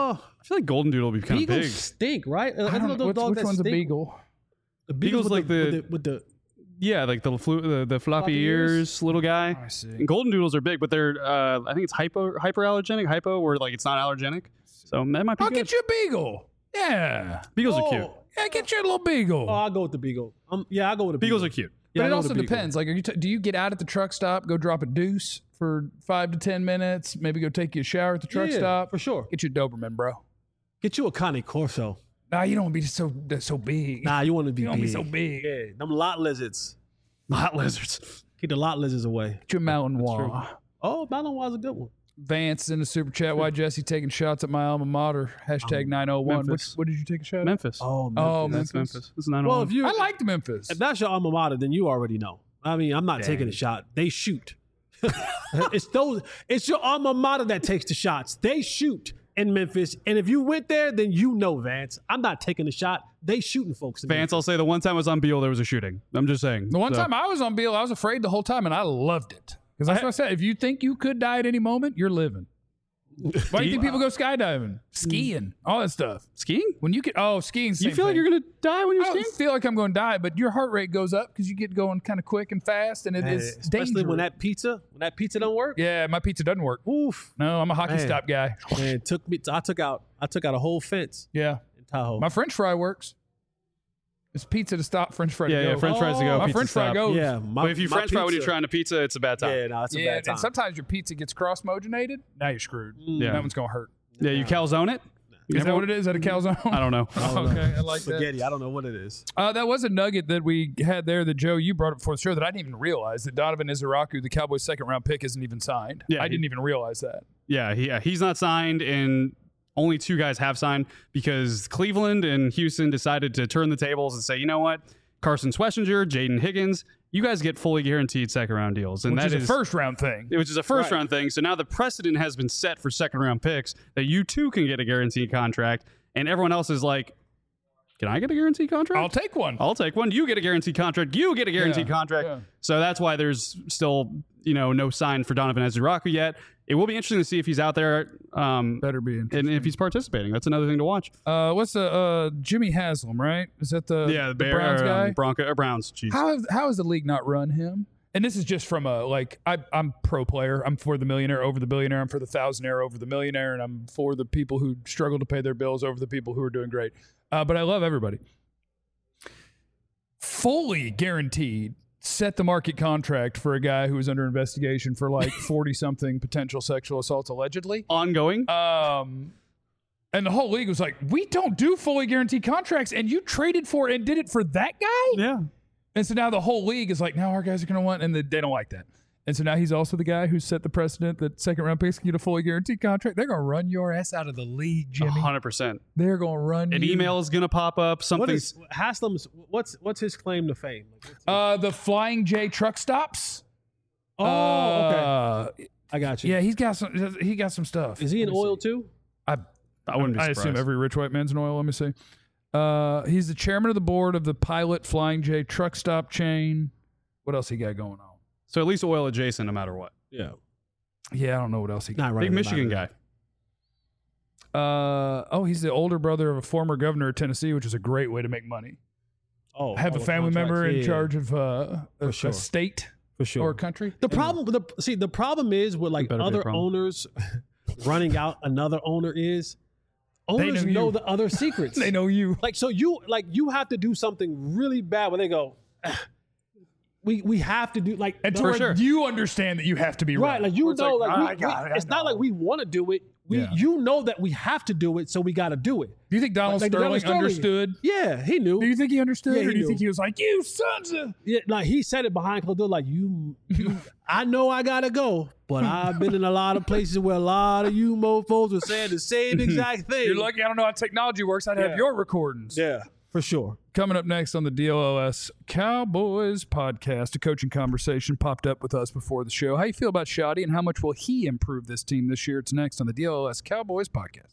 C: I feel like Golden Doodle would be kind of
B: beagles
C: big.
B: stink, right?
A: I don't know, what's- which one's a beagle?
B: The
C: Beagle's
B: with
C: like
B: the,
C: the-
B: with the with the
C: Yeah, like the flu- the, the floppy,
B: Floppy
C: ears,
B: ears?
C: little guy.
A: I see.
C: And Golden Doodles are big, but they're uh, I think it's hypo hyperallergenic, hypo, where like it's not allergenic. So that might be
A: I'll
C: good.
A: get you a beagle. Yeah.
C: Beagles
B: Oh.
C: are cute.
A: Yeah, get you a little beagle.
B: Oh, I'll go with the beagle. Um, yeah, I'll go with the
C: Beagles
B: beagle.
C: are cute.
B: Yeah,
A: but
B: I'll
A: it
B: go
A: also
B: with the beagle.
A: depends. Like, are you t- do you get out at the truck stop, go drop a deuce for five to ten minutes, maybe go take you a shower at the truck
B: Yeah,
A: stop?
B: for sure.
A: Get you a Doberman, bro.
B: Get you a Connie Corso.
A: Nah, you don't want to be so that's so big.
B: Nah, you want to be
A: you don't
B: big.
A: be so big.
B: Yeah, them lot lizards.
C: Not lizards.
B: Keep the lot lizards away.
A: Get your Malinois.
B: Oh, Malinois is a good one.
A: Vance in the super chat. Why Jesse taking shots at my alma mater? Hashtag nine oh one. What,
C: Memphis.
A: what did you take a shot at?
C: Memphis.
B: Oh,
A: Oh,
C: That's
A: Memphis.
C: Memphis. It's nine oh
B: Well,
C: one.
B: if you
A: I liked Memphis.
B: if that's your alma mater, then you already know. I mean, I'm not taking a shot. They shoot. it's those. It's your alma mater that takes the shots. They shoot in Memphis, and if you went there, then you know, Vance. I'm not taking a shot. They shooting folks. In
C: Vance, I'll say the one time I was on Beale, there was a shooting. I'm just saying.
A: The one
C: So-
A: time I was on Beale, I was afraid the whole time, and I loved it. Because that's what I said. If you think you could die at any moment, you're living. Why do you think people go skydiving, skiing, all that stuff?
C: skiing?
A: When you get oh skiing,
C: You feel like you're gonna die when you're
A: I
C: skiing?
A: don't feel like I'm going to die, but your heart rate goes up because you get going kind of quick and fast, and it
B: Man,
A: is
B: especially
A: dangerous.
B: when that pizza, when that pizza don't work.
A: yeah, my pizza doesn't work.
B: Oof,
A: No, I'm a hockey
B: Man.
A: stop guy.
B: man, it took me. I took out. I took out a whole fence
A: Yeah,
B: in Tahoe.
A: my French fry works. It's pizza to stop, French fry
C: Yeah,
A: to
C: yeah.
A: go.
C: French fries to go.
A: my
C: pizza
A: French fry
C: stop.
A: goes.
B: yeah, my,
C: But if you
B: my
C: French fry when you're
B: pizza-
C: trying to pizza, it's a bad time.
B: Yeah, no, it's a
A: Yeah,
B: bad time.
A: and sometimes your pizza gets cross-mogenated. Now you're screwed.
C: Yeah.
A: That one's gonna hurt.
C: Yeah, you calzone it.
A: Is that what it is? Is that a calzone?
C: I don't know.
A: okay, I like that.
B: Spaghetti. I don't know what it is.
A: Uh, that was a nugget that we had there that Joe, you brought up before the show that I didn't even realize that Donovan Izaraku, the Cowboys' second round pick, isn't even signed.
C: Yeah,
A: I
C: he-
A: didn't even realize that.
C: Yeah, he, yeah, he's not signed, and only two guys have signed because Cleveland and Houston decided to turn the tables and say, you know what, Carson Schlesinger, Jaden Higgins, you guys get fully guaranteed second round deals, and
A: Which
C: that
A: is a first round thing.
C: which is a first
B: Right.
C: round thing. So now the precedent has been set for second round picks that you too can get a guaranteed contract, and everyone else is like, can I get a guaranteed contract?
A: I'll take one.
C: I'll take one. You get a guaranteed contract. You get a guaranteed
A: Yeah,
C: contract.
A: yeah.
C: So that's why there's still, you know, no sign for Donovan Izaraku yet. It will be interesting to see if he's out there um,
A: Better be interesting.
C: and if he's participating. That's another thing to watch.
A: Uh, what's the uh, Jimmy Haslam, right? Is that the,
C: yeah,
A: the
C: Bear,
A: Browns
C: um,
A: guy?
C: Bronco or Browns. Jeez.
A: How have, how has the league not run him? And this is just from a like I, I'm pro player. I'm for the millionaire over the billionaire. I'm for the thousandaire over the millionaire, and I'm for the people who struggle to pay their bills over the people who are doing great. Uh, but I love everybody. Fully guaranteed, set the market contract for a guy who was under investigation for like forty something potential sexual assaults allegedly.
C: Ongoing.
A: Um, and the whole league was like, we don't do fully guaranteed contracts, and you traded for and did it for that guy.
C: yeah.
A: And so now the whole league is like, now our guys are going to want, and they they don't like that. And so now he's also the guy who set the precedent that second round picks can get a fully guaranteed contract. They're going to run your ass out of the league, Jimmy.
C: one hundred percent.
A: They're going to run
C: An
A: you.
C: email is going to pop up.
B: What
C: Something.
B: is Haslam's? What's what's his claim to fame? Like, what's-
A: Uh, the Flying J truck stops.
B: oh, okay.
A: Uh,
B: I got you.
A: Yeah, he's got some. He got some stuff.
B: Is he in
A: Let me
B: oil
A: see.
B: too?
A: I
C: I wouldn't be
A: I
C: surprised.
A: assume every rich white man's in oil. Let me see. Uh, he's the chairman of the board of the Pilot Flying J truck stop chain. What else he got going on?
C: So at least oil adjacent, no matter what.
B: Yeah.
A: Yeah, I don't know what else he got.
B: Not right.
C: Big Michigan guy.
A: Uh, oh, he's the older brother of a former governor of Tennessee, which is a great way to make money.
B: Oh,
A: Have
B: all
A: a
B: the
A: family member
B: contracts.
A: in
B: Yeah,
A: charge of uh, a,
B: sure.
A: a state
B: for sure.
A: or a country.
B: The problem, the see, the problem is with like
C: better be a
B: other
C: problem.
B: owners running out another owner is owners
A: know
B: know,
A: you.
B: the other secrets.
A: They know you.
B: Like so, you like you have to do something really bad where they go, "Ah, we we have to do like
A: And
B: the-
A: to where you understand that you have to be right.
B: right. Like you
A: Where it's
B: know, like,
A: "Ah,
B: we-
A: I got
B: we-
A: it, I
B: it's not
A: know."
B: like we want to do it. We
A: Yeah.
B: you know that we have to do it, so we got to do it.
A: Do you think Donald
B: Like, like
A: Sterling,
B: Donald Sterling.
A: understood?
B: Yeah, he knew.
A: Do you think he understood,
B: Yeah,
A: or
B: he
A: do you
B: knew.
A: think he was like, "You sons of"?
B: Yeah, like he said it behind closed doors, like you, you I know I gotta go, but I've been in a lot of places where a lot of you mofos were saying the same exact thing.
A: You're lucky I don't know how technology works. I'd have
B: Yeah.
A: your recordings.
B: Yeah, for sure.
A: Coming up next on the D L O S Cowboys podcast, a coaching conversation popped up with us before the show. How you feel about Shoddy, and how much will he improve this team this year? It's next on the D L O S Cowboys podcast.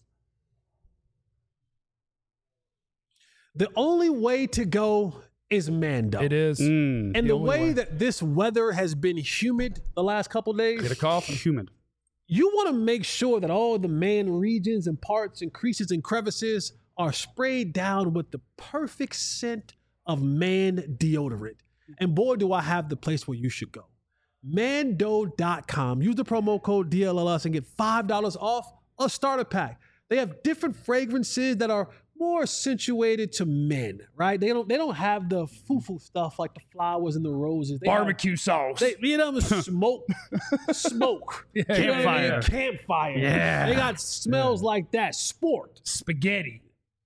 B: The only way to go is Mando.
A: It is.
C: Mm.
B: And
A: the
B: the,
A: only
B: way,
A: way.
B: that this weather has been humid the last couple days,
A: Get a coffin.
C: Humid.
B: you want to make sure that all the man regions and parts and creases and crevices are sprayed down with the perfect scent of man deodorant. And boy, do I have the place where you should go. Mando dot com. Use the promo code D L L S and get five dollars off a starter pack. They have different fragrances that are more accentuated to men, right? They don't they don't have the foo-foo stuff like the flowers and the roses. They have-
A: Barbecue sauce.
B: they, you know, smoke, smoke,
A: Yeah.
B: You know what I mean?
C: Campfire.
B: campfire.
C: Yeah.
B: They got smells like that. Sport,
A: Spaghetti.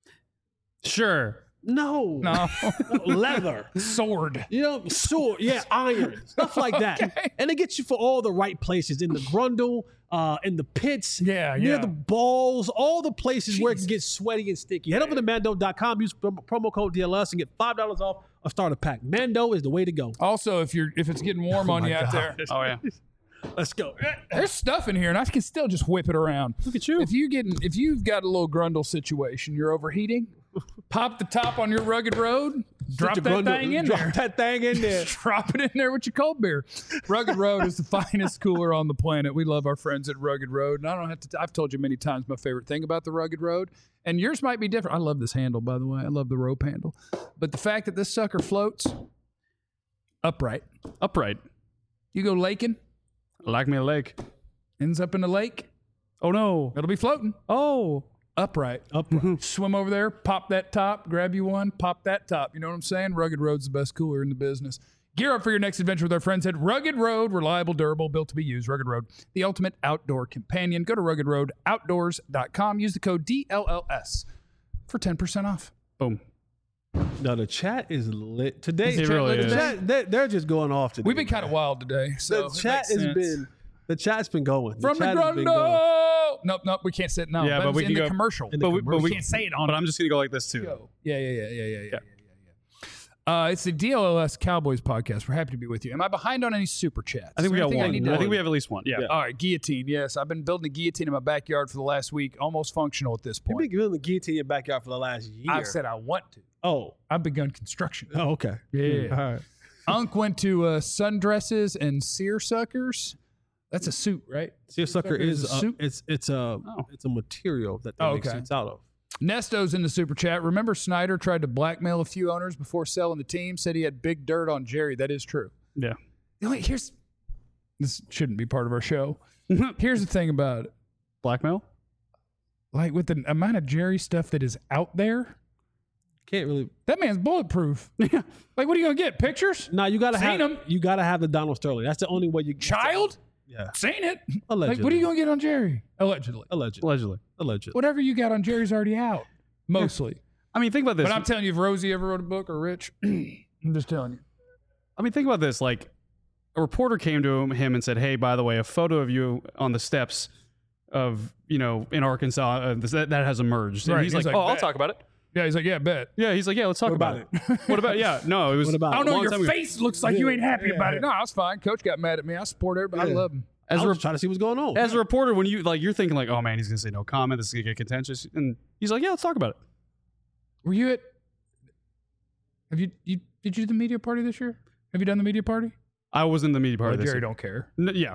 C: Sure.
B: no,
A: No.
B: leather.
A: Sword.
B: You know, sword, yeah, iron, stuff like that,
A: Okay.
B: and it gets you for all the right places in the grundle, uh, in the pits,
A: Yeah,
B: near
A: yeah.
B: the balls, all the places where it can
A: Jeez.
B: get sweaty and sticky. Head over to Mando dot com, use prom- promo code D L S, and get five dollars off a starter pack. Mando is the way to go.
A: Also, if you're if it's getting warm on you out there,
C: Oh, yeah.
B: Let's go.
A: there's stuff in here, and I can still just whip it around.
C: Look at you.
A: If you getting if you've got a little grundle situation, you're overheating, pop the top on your rugged road, drop
B: Put
A: that
B: your grundle-
A: thing in
B: drop
A: there.
B: that thing in there.
A: Drop it in there with your cold beer. Rugged Road is the finest cooler on the planet. We love our friends at Rugged Road. And I don't have to, I've told you many times my favorite thing about the Rugged Road. And yours might be different. I love this handle, by the way. I love the rope handle. But the fact that this sucker floats upright.
C: Upright.
A: You go laking,
C: Like me a lake.
A: ends up in the lake,
C: Oh, no.
A: it'll be floating
C: Oh.
A: upright. Upright. Swim over there, pop that top, grab you one, pop that top. You know what I'm saying? Rugged Road's the best cooler in the business. Gear up for your next adventure with our friends at Rugged Road. Reliable, durable, built to be used. Rugged Road, the ultimate outdoor companion. Go to rugged road outdoors dot com. Use the code D L L S for ten percent off.
C: Boom.
B: No, the chat is lit today.
C: It
B: chat-
C: really
B: the
C: is.
B: Chat, they, they're just going off today.
A: We've been kind of
B: man.
A: wild today. So
B: The
A: it
B: chat
A: makes
B: has
A: sense.
B: been the chat's been going.
A: From the
B: chat has been going.
A: Grundle. Nope, nope, we can't say it. No,
C: Yeah,
A: that
C: but
A: was
C: we
A: in
C: can
A: the
C: go-
A: commercial.
B: in the
C: But we,
B: commercial.
C: but we
A: can't say it on
C: But
A: the
C: I'm just going to go like this, too.
A: show. Yeah, yeah, yeah, yeah, yeah, yeah. yeah. Uh, it's the D L L S Cowboys podcast. We're happy to be with you. Am I behind on any super chats?
C: I think
A: Is
C: we
A: there
C: got
A: anything
C: one.
A: need to
C: I think
A: do?
C: we have at least one. Yeah.
B: Yeah.
A: All right, guillotine. Yes, I've been building a guillotine in my backyard for the last week, almost functional at this
B: You've
A: point.
B: been giving the guillotine in your backyard for the last year.
A: I've said I want to.
B: oh,
A: I've begun construction.
B: oh, okay.
A: Yeah.
B: All right.
A: Unc went to uh, sundresses and seersuckers. That's a suit, right?
B: Seersucker
A: is
B: is
A: a
B: a,
A: suit?
B: it's it's a
C: Oh.
B: it's a material that they
A: Oh,
B: make
A: okay.
B: suits out of.
A: Nesto's in the super chat. Remember Snyder tried to blackmail a few owners before selling the team, said he had big dirt on Jerry. That is true.
C: Yeah.
A: Wait, here's this shouldn't be part of our show. Here's the thing about it.
C: Blackmail?
A: Like with the amount of Jerry stuff that is out there,
B: Can't really.
A: that man's bulletproof. Yeah. Like, what are you gonna get? Pictures?
B: No, you gotta
A: Seen
B: have
A: him.
B: you gotta have the Donald Sterling. That's the only way you
A: Child?
B: Yeah,
A: Seen it.
B: allegedly.
A: Like, what are you gonna get on Jerry? Allegedly.
B: allegedly?
C: Allegedly.
B: Allegedly.
A: Whatever you got on Jerry's already out. Mostly.
C: I mean, think about this.
A: But I'm telling you, if Rosie ever wrote a book or Rich, I'm just telling you.
C: I mean, think about this. Like, a reporter came to him, him and said, "Hey, by the way, a photo of you on the steps of, you know, in Arkansas uh, that, that has emerged." And
A: Right.
C: he's,
A: He's
C: like,
A: like,
C: "Oh, I'll
A: bet.
C: talk about it."
A: Yeah, he's like, yeah, bet.
C: Yeah, he's like, "Yeah, let's talk
B: What
C: about,
B: about
C: it." What about? Yeah, no, it was.
B: What about
A: I don't
B: it?
A: know.
C: long
A: Your
C: time ago.
A: face looks like you ain't happy about it. No, I was fine. Coach got mad at me. I support everybody. I
B: Yeah.
A: love him.
C: As
B: I
C: a
B: was
C: rep-
B: trying to see what's going on.
C: as a reporter, when you like, you're thinking like, oh man, he's gonna say no comment. This is gonna get contentious, and he's like, yeah, let's talk about it.
A: Were you at? Have you you did you do the media party this year? Have you done the media party?
C: I was in the media part
A: Well,
C: of this.
A: Jerry
C: year.
A: don't care.
C: N- yeah,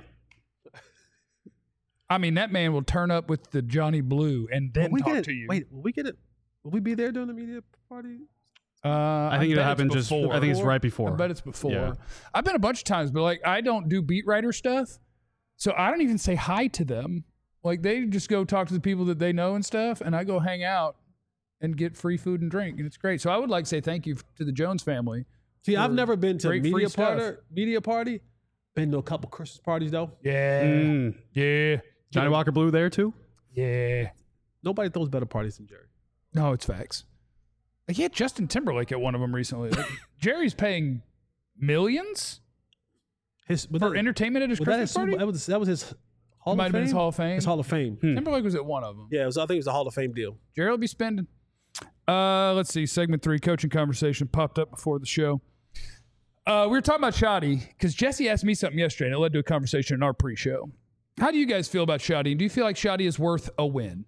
A: I mean, that man will turn up with the Johnny Blue and then
B: Will we
A: talk
B: get it?
A: to you.
B: Wait, will we get it? Will we be there during the media party?
A: Uh,
C: I think
A: bet
C: it
A: it's
C: happened just.
A: before.
C: I think it's right before.
A: I bet it's before.
C: Yeah.
A: I've been a bunch of times, but like I don't do beat writer stuff, so I don't even say hi to them. Like they just go talk to the people that they know and stuff, and I go hang out and get free food and drink, and it's great. So I would like to say thank you to the Jones family.
B: See, I've
A: for
B: never been to a
A: great free
B: media
A: stuff.
B: party. Media party. Been to a couple Christmas parties though.
A: Yeah,
C: Mm.
A: yeah,
C: Johnny Walker Blue there too.
A: yeah.
B: Nobody throws better parties than Jerry.
A: No, it's facts. Like he had Justin Timberlake at one of them recently. Like, Jerry's paying millions
B: His was
A: for
B: that,
A: entertainment at his
B: was that,
A: Christmas
B: his Super-
A: party.
B: that was that was his Hall
A: Might
B: of
A: have been
B: Fame.
A: his Hall of Fame.
B: His Hall of Fame.
C: Hmm.
A: Timberlake was at one of them.
B: Yeah, it was, I think it was a Hall of Fame deal.
A: Jerry will be spending. Uh, let's see. Segment three, coaching conversation popped up before the show. Uh, we were talking about Shoddy because Jesse asked me something yesterday, and it led to a conversation in our pre-show. How do you guys feel about Shoddy? Do you feel like Shoddy is worth a win?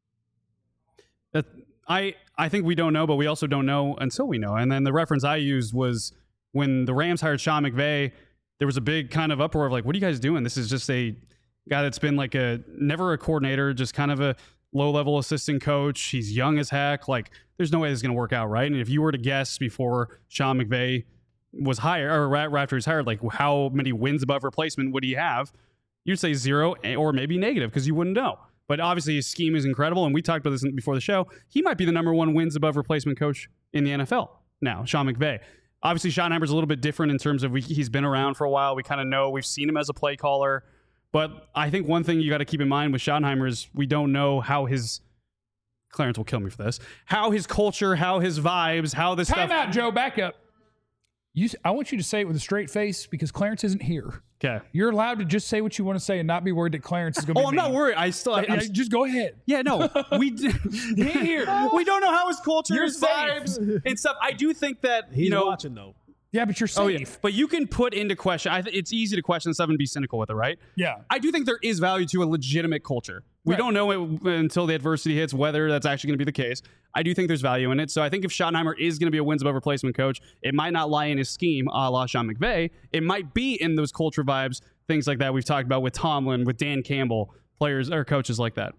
C: That I I think we don't know, but we also don't know until we know. And then the reference I used was when the Rams hired Sean McVay. There was a big kind of uproar of like, what are you guys doing? This is just a guy that's been like a never a coordinator, just kind of a low-level assistant coach. He's young as heck. Like, there's no way this is going to work out, right? And if you were to guess before Sean McVay was hired, or right after he's hired, like how many wins above replacement would he have? You'd say zero or maybe negative because you wouldn't know. But obviously his scheme is incredible, and we talked about this before the show. He might be the number one wins above replacement coach in the N F L now, Sean McVay. Obviously, Schottenheimer's a little bit different in terms of we, he's been around for a while. We kind of know. We've seen him as a play caller. But I think one thing you got to keep in mind with Schottenheimer is we don't know how his – Clarence will kill me for this – how his culture, how his vibes, how this
A: Time
C: stuff –
A: out, Joe. Back up. You, I want you to say it with a straight face because Clarence isn't here.
C: Okay.
A: You're allowed to just say what you want to say and not be worried that Clarence is going to be
C: Oh, I'm not
A: mean.
C: worried. I still –
A: Yeah, just go ahead.
C: Yeah, no, we d-
A: here.
C: we don't know how his culture,
A: You're
C: his
A: safe.
C: vibes, and stuff. I do think that
B: He's
C: you know,
B: watching though.
A: Yeah, but you're safe.
C: oh yeah, but you can put into question. I th- it's easy to question stuff and be cynical with it, right?
A: Yeah.
C: I do think there is value to a legitimate culture. We
A: Right.
C: don't know it until the adversity hits whether that's actually going to be the case. I do think there's value in it. So I think if Schottenheimer is going to be a wins above replacement coach, it might not lie in his scheme, a la Sean McVay. It might be in those culture vibes, things like that we've talked about with Tomlin, with Dan Campbell, players or coaches like that.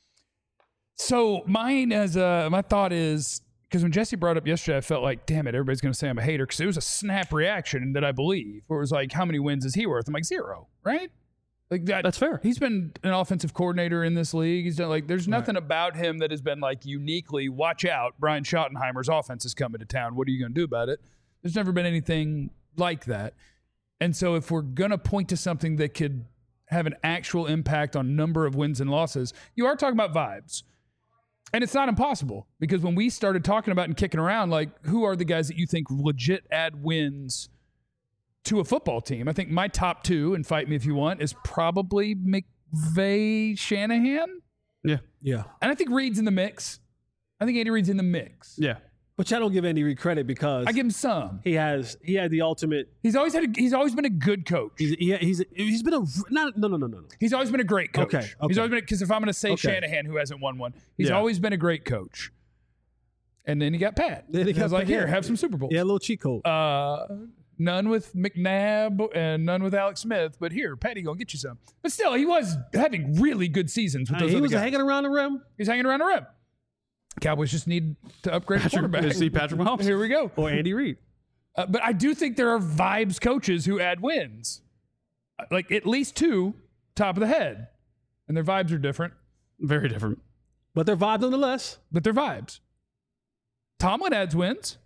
A: So mine as a, my thought is, because when Jesse brought up yesterday, I felt like, damn it, everybody's going to say I'm a hater because it was a snap reaction that I believe, where it was like, how many wins is he worth? I'm like, zero, right? Like that.
C: That's fair.
A: He's been an offensive coordinator in this league. He's done like, there's nothing about him that has been like uniquely, watch out, Brian Schottenheimer's offense is coming to town. What are you going to do about it? There's never been anything like that. And so if we're going to point to something that could have an actual impact on number of wins and losses, you are talking about vibes. And it's not impossible because when we started talking about and kicking around, like, who are the guys that you think legit add wins to a football team? I think my top two, and fight me if you want, is probably McVay, Shanahan.
C: Yeah.
B: Yeah.
A: And I think Reed's in the mix. I think Andy Reid's in the mix.
C: Yeah.
B: But I don't give Andy Reid credit because
A: I give him some.
B: he has he had the ultimate.
A: He's always had. A, he's always been a good coach.
B: He's he, he's he's been a not no no no no no.
A: He's always been a great coach.
B: Okay, okay.
A: He's always been because if I'm going to say
B: Okay.
A: Shanahan, who hasn't won one, he's
C: Yeah.
A: always been a great coach. And then he got Pat.
B: Then he
A: And I was
B: got
A: like,
B: Pat,
A: here,
B: yeah.
A: have some Super Bowls.
B: Yeah, a little cheat code.
A: Uh, none with McNabb and none with Alex Smith, but here, Patty gonna get you some. But still, he was having really good seasons with
B: Hey,
A: those
B: he
A: other
B: was
A: guys.
B: hanging around the rim.
A: He's hanging around the rim. Cowboys just need to upgrade the
C: Patrick,
A: quarterback.
C: see Patrick Mahomes.
A: Here we go.
B: Or Andy Reid.
A: Uh, but I do think there are vibes coaches who add wins, like at least two, top of the head, and their vibes are different,
C: Very different.
B: But they're vibes nonetheless.
A: but they're vibes. Tomlin adds wins,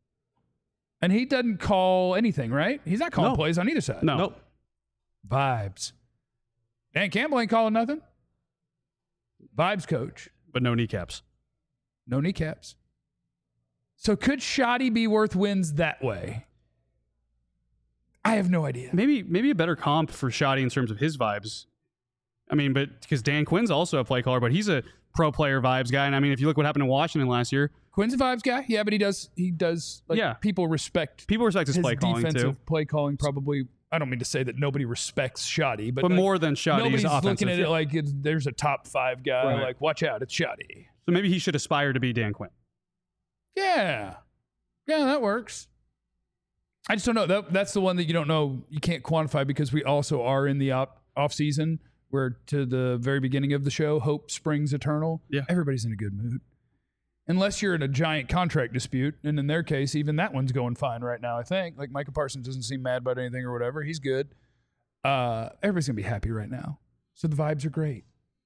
A: and he doesn't call anything, right? He's not calling
B: No.
A: plays on either side.
C: No.
B: Nope.
A: Vibes. Dan Campbell ain't calling nothing. Vibes coach.
C: But no kneecaps.
A: No kneecaps. So could Shoddy be worth wins that way? I have no idea.
C: Maybe maybe a better comp for Shoddy in terms of his vibes. I mean, but because Dan Quinn's also a play caller, but he's a pro player vibes guy. And I mean, if you look what happened in Washington last year,
A: Quinn's a vibes guy. Yeah, but he does he does like
C: Yeah.
A: people respect
C: people respect his,
A: his
C: play calling
A: defensive
C: too.
A: play calling probably I don't mean to say that nobody respects Shoddy, but,
C: But
A: like,
C: more than Shoddy,
A: nobody's
C: he's offensive.
A: looking at it like it's, there's a top five guy.
C: Right.
A: Like, watch out, it's Shoddy.
C: So maybe he should aspire to be Dan Quinn.
A: Yeah, yeah, that works. I just don't know. That, that's the one that you don't know. You can't quantify because we also are in the op, off season where to the very beginning of the show, hope springs eternal.
C: Yeah.
A: Everybody's in a good mood. Unless you're in a giant contract dispute. And in their case, even that one's going fine right now, I think. Like Micah Parsons doesn't seem mad about anything or whatever. He's good. Uh, everybody's going to be happy right now. So the vibes are great.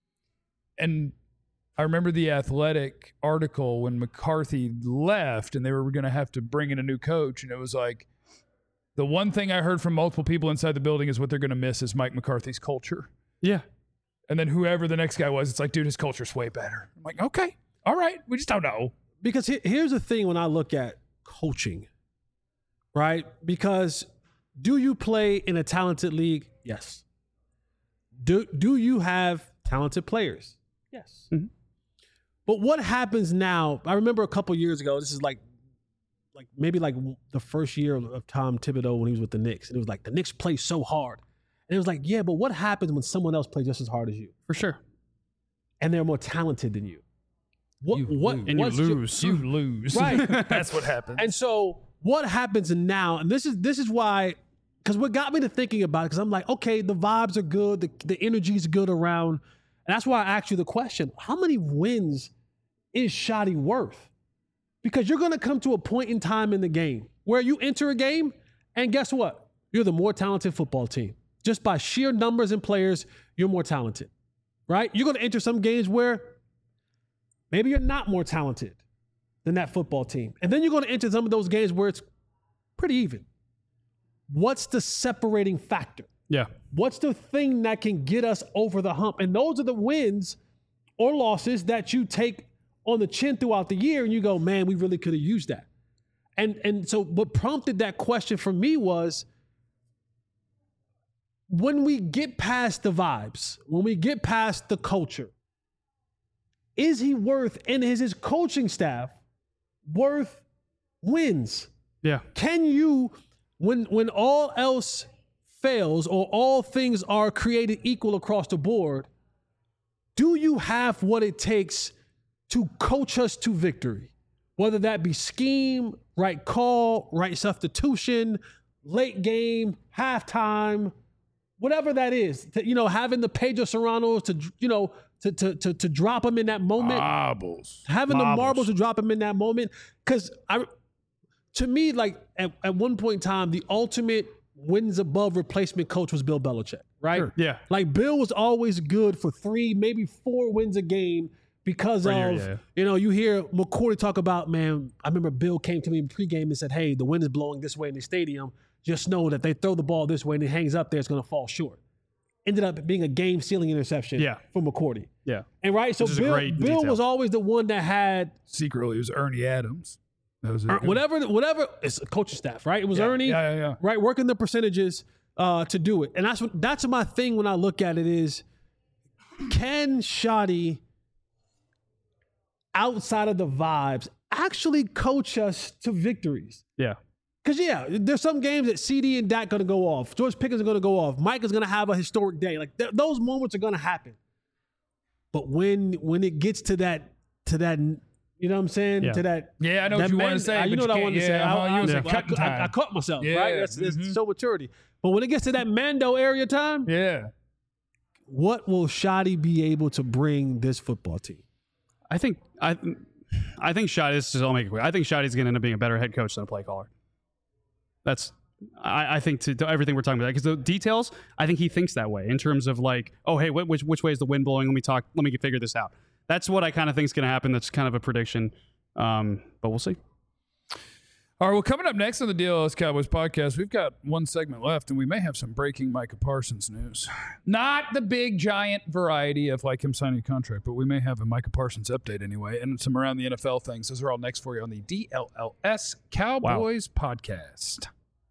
A: And I remember the Athletic article when McCarthy left and they were going to have to bring in a new coach. And it was like, the one thing I heard from multiple people inside the building is what they're going to miss is Mike McCarthy's culture.
C: Yeah.
A: And then whoever the next guy was, it's like, dude, his culture's way better. I'm like, okay, all right. We just don't know.
B: Because he- here's the thing when I look at coaching, right? Because do you play in a talented league? Yes. Do, do you have talented players? Yes.
C: Mm-hmm.
B: But what happens now? I remember a couple years ago, this is like, like maybe like the first year of Tom Thibodeau when he was with the Knicks. And it was like, the Knicks play so hard. And it was like, yeah, but what happens when someone else plays just as hard as you?
C: For sure.
B: And they're more talented than you? What,
A: You
B: what,
A: lose.
C: And you
B: what's your-
C: lose.
A: You lose.
B: Right.
A: That's what happens.
B: And so what happens now, and this is this is why, because what got me to thinking about it, because I'm like, okay, the vibes are good, the, the energy's good around. And that's why I asked you the question, how many wins is Shoddy worth? Because you're going to come to a point in time in the game where you enter a game, and guess what? You're the more talented football team. Just by sheer numbers and players, you're more talented, right? You're going to enter some games where maybe you're not more talented than that football team. And then you're going to enter some of those games where it's pretty even. What's the separating factor?
C: Yeah.
B: What's the thing that can get us over the hump? And those are the wins or losses that you take on the chin throughout the year and you go, man, we really could have used that. And and so what prompted that question for me was, when we get past the vibes, when we get past the culture, is he worth, and is his coaching staff worth wins?
C: Yeah.
B: Can you, when when all else fails or all things are created equal across the board, do you have what it takes to coach us to victory? Whether that be scheme, right call, right substitution, late game, halftime, whatever that is. To, you know, having the Pedro Serranos to, you know, to to to, to drop them in that moment.
A: Marbles.
B: Having
A: Marbles.
B: the marbles to drop him in that moment. Because I, to me, like at, at one point in time, the ultimate wins above replacement coach was Bill Belichick, right?
C: Sure. Yeah.
B: Like Bill was always good for three, maybe four wins a game because
C: Right
B: of,
C: here, yeah.
B: you know, you hear McCourty talk about, man, I remember Bill came to me in pregame and said, hey, the wind is blowing this way in the stadium. Just know that they throw the ball this way and it hangs up there, it's going to fall short. Ended up being a game-sealing interception
C: Yeah.
B: for McCourty.
C: Yeah.
B: And right, so
C: Which is a
B: Bill,
C: great
B: Bill
C: detail.
B: was always the one that had
A: Secretly, it was Ernie Adams. That was it.
B: Er, whatever, whatever. It's a coaching staff, right? It was
A: Yeah,
B: Ernie,
A: yeah, yeah, yeah.
B: right, working the percentages uh, to do it, and that's what that's my thing when I look at it is, can Shoddy, outside of the vibes, actually coach us to victories?
C: Yeah.
B: Because yeah, there's some games that C D and Dak going to go off, George Pickens are going to go off, Mike is going to have a historic day. Like th- those moments are going to happen. But when when it gets to that to that. You know what I'm saying?
C: Yeah.
B: To that.
A: Yeah, I know what
B: that
A: you
B: man-
A: wanted to say,
B: uh, You
A: but
B: know
A: you
B: what I
A: can't-
B: wanted to
A: yeah,
B: say. I,
A: uh-huh, you
B: I,
A: was
B: I,
A: like cutting
B: I- I-
A: time.
B: I caught myself,
A: Yeah,
B: right? That's, that's
A: mhm.
B: so maturity. But when it gets to that Mando area time,
A: Yeah.
B: what will Shoddy be able to bring this football team?
C: I think I I think Shoddy, this is, I'll make it quick. I think Shoddy's going to end up being a better head coach than a play caller. That's, I, I think to, to everything we're talking about, because the details, I think he thinks that way in terms of like, oh, hey, wh- which, which way is the wind blowing? Let me talk, let me figure this out. That's what I kind of think is going to happen. That's kind of a prediction. Um, but we'll see.
A: All right, well, coming up next on the D L S Cowboys podcast, we've got one segment left, and we may have some breaking Micah Parsons news. Not the big, giant variety of like him signing a contract, but we may have a Micah Parsons update anyway, and some around the N F L things. Those are all next for you on the D L L S Cowboys podcast.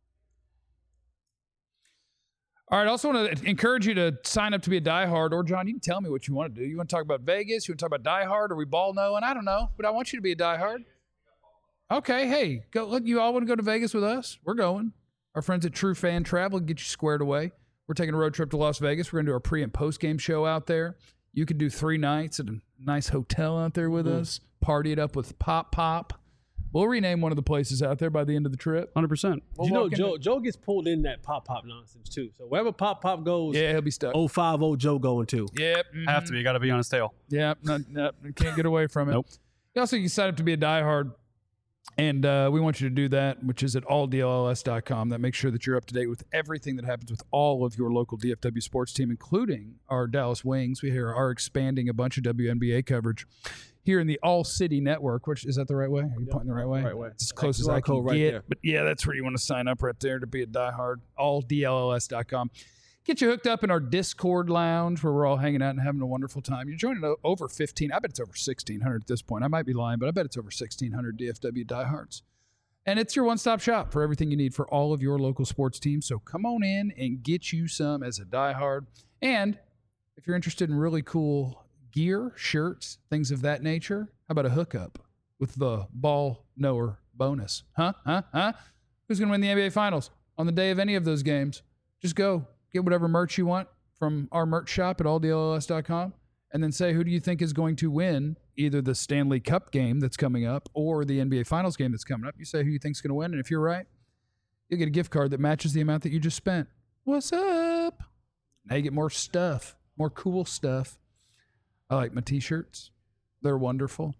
A: All right, I also want to encourage you to sign up to be a diehard, or John, you can tell me what you want to do. You want to talk about Vegas? You want to talk about diehard? Are we ball knowing? I don't know, but I want you to be a diehard. Okay, hey, go. Look, you all want to go to Vegas with us? We're going. Our friends at True Fan Travel get you squared away. We're taking a road trip to Las Vegas. We're going to do our pre and post game show out there. You could do three nights at a nice hotel out there with mm. us. Party it up with Pop Pop. We'll rename one of the places out there by the end of the trip.
C: one hundred percent.
B: We'll you know, Joe Joe gets pulled in that Pop Pop nonsense, too. So wherever Pop Pop goes,
A: yeah, he'll be stuck.
B: oh five oh Joe going, too.
A: Yep. Mm-hmm.
C: Have to be. Got to be on his tail.
A: Yep. Not, not, can't get away from it.
C: Nope.
A: You also can sign up to be a diehard, and uh, we want you to do that, which is at all D L L S dot com. That makes sure that you're up to date with everything that happens with all of your local D F W sports team, including our Dallas Wings. We here are expanding a bunch of W N B A coverage here in the All City Network, which is that the right way? Are you yep. pointing the right way?
B: Right way.
A: It's as close as I can
B: right
A: get.
B: There.
A: But yeah, that's where you want to sign up right there to be a diehard. all D L L S dot com. Get you hooked up in our Discord lounge where we're all hanging out and having a wonderful time. You're joining over fifteen. I bet it's over sixteen hundred at this point. I might be lying, but I bet it's over sixteen hundred D F W diehards. And it's your one-stop shop for everything you need for all of your local sports teams. So come on in and get you some as a diehard. And if you're interested in really cool gear, shirts, things of that nature, how about a hookup with the ball knower bonus? Huh? Huh? Huh? Who's going to win the N B A Finals on the day of any of those games? Just go get whatever merch you want from our merch shop at all D L L S dot com and then say, who do you think is going to win either the Stanley Cup game that's coming up or the N B A Finals game that's coming up? You say who you think's going to win, and if you're right, you'll get a gift card that matches the amount that you just spent. What's up? Now you get more stuff, more cool stuff. I like my T-shirts. They're wonderful.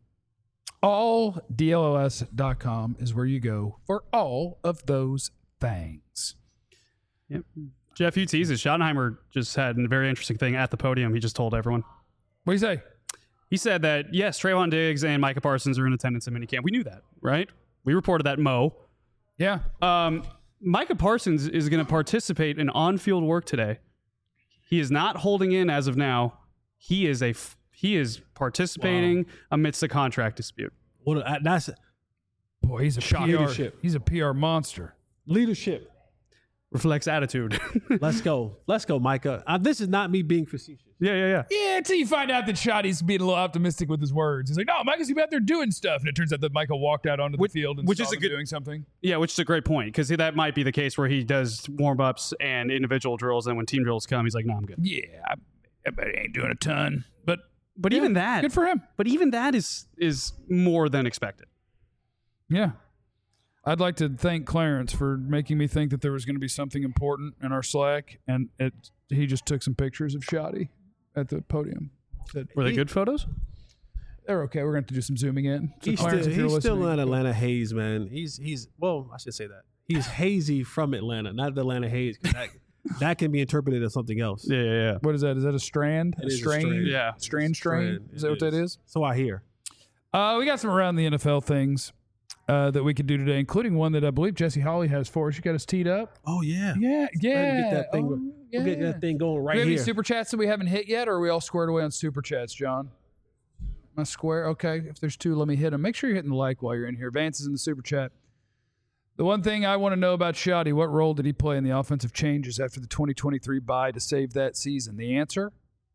A: all D L L S dot com is where you go for all of those things.
C: Yep. Jeff, you teased it. Schottenheimer just had a very interesting thing at the podium. He just told everyone.
A: What do you say?
C: He said that, yes, Trayvon Diggs and Micah Parsons are in attendance at minicamp. We knew that, right? We reported that, Mo.
A: Yeah.
C: Um, Micah Parsons is going to participate in on-field work today. He is not holding in as of now. He is a f- he is participating wow. amidst a contract dispute.
B: Well, that's
A: boy. He's a P R. Leadership. He's a P R monster.
B: Leadership
C: reflects attitude.
B: Let's go. Let's go, Micah. Uh, this is not me being facetious.
C: Yeah, yeah, yeah.
A: Yeah, until you find out that Shotty's being a little optimistic with his words. He's like, no, Micah's out there doing stuff. And it turns out that Micah walked out onto
C: which,
A: the field and
C: which
A: saw
C: is a
A: him
C: good,
A: doing something.
C: Yeah, which is a great point, because that might be the case where he does warm-ups and individual drills, and when team drills come, he's like, no, I'm good.
A: Yeah, I, I bet he ain't doing a ton. But
C: but
A: yeah,
C: even that.
A: Good for him.
C: But even that is is more than expected.
A: Yeah. I'd like to thank Clarence for making me think that there was going to be something important in our Slack, and it, he just took some pictures of Shotty at the podium. Said,
C: Were they
A: he,
C: good photos?
A: They're okay. We're going to have to do some zooming in. So
B: he's
A: Clarence,
B: still, he's still in Atlanta haze, man. He's, he's well, I should say that. He's hazy from Atlanta, not the Atlanta haze. That, that can be interpreted as something else.
C: Yeah, yeah, yeah.
A: What is that? Is that a strand?
B: It
A: a
B: is
A: strain?
B: a strand.
C: Yeah.
A: Strand, strain?
B: Strand.
A: Is that it what is. that is?
B: So I hear.
A: Uh, we got some around the N F L things uh, that we could do today, including one that I believe Jesse Hawley has for us. You got us teed up?
B: Oh, yeah.
A: Yeah, yeah.
B: Get that thing,
A: oh, yeah.
B: We'll get that thing going right
A: do we have
B: here.
A: Any super chats that we haven't hit yet, or are we all squared away on super chats, John? Am I square? Okay. If there's two, let me hit them. Make sure you're hitting the like while you're in here. Vance is in the super chat. The one thing I want to know about Shotty, what role did he play in the offensive changes after the twenty twenty-three bye to save that season? The answer?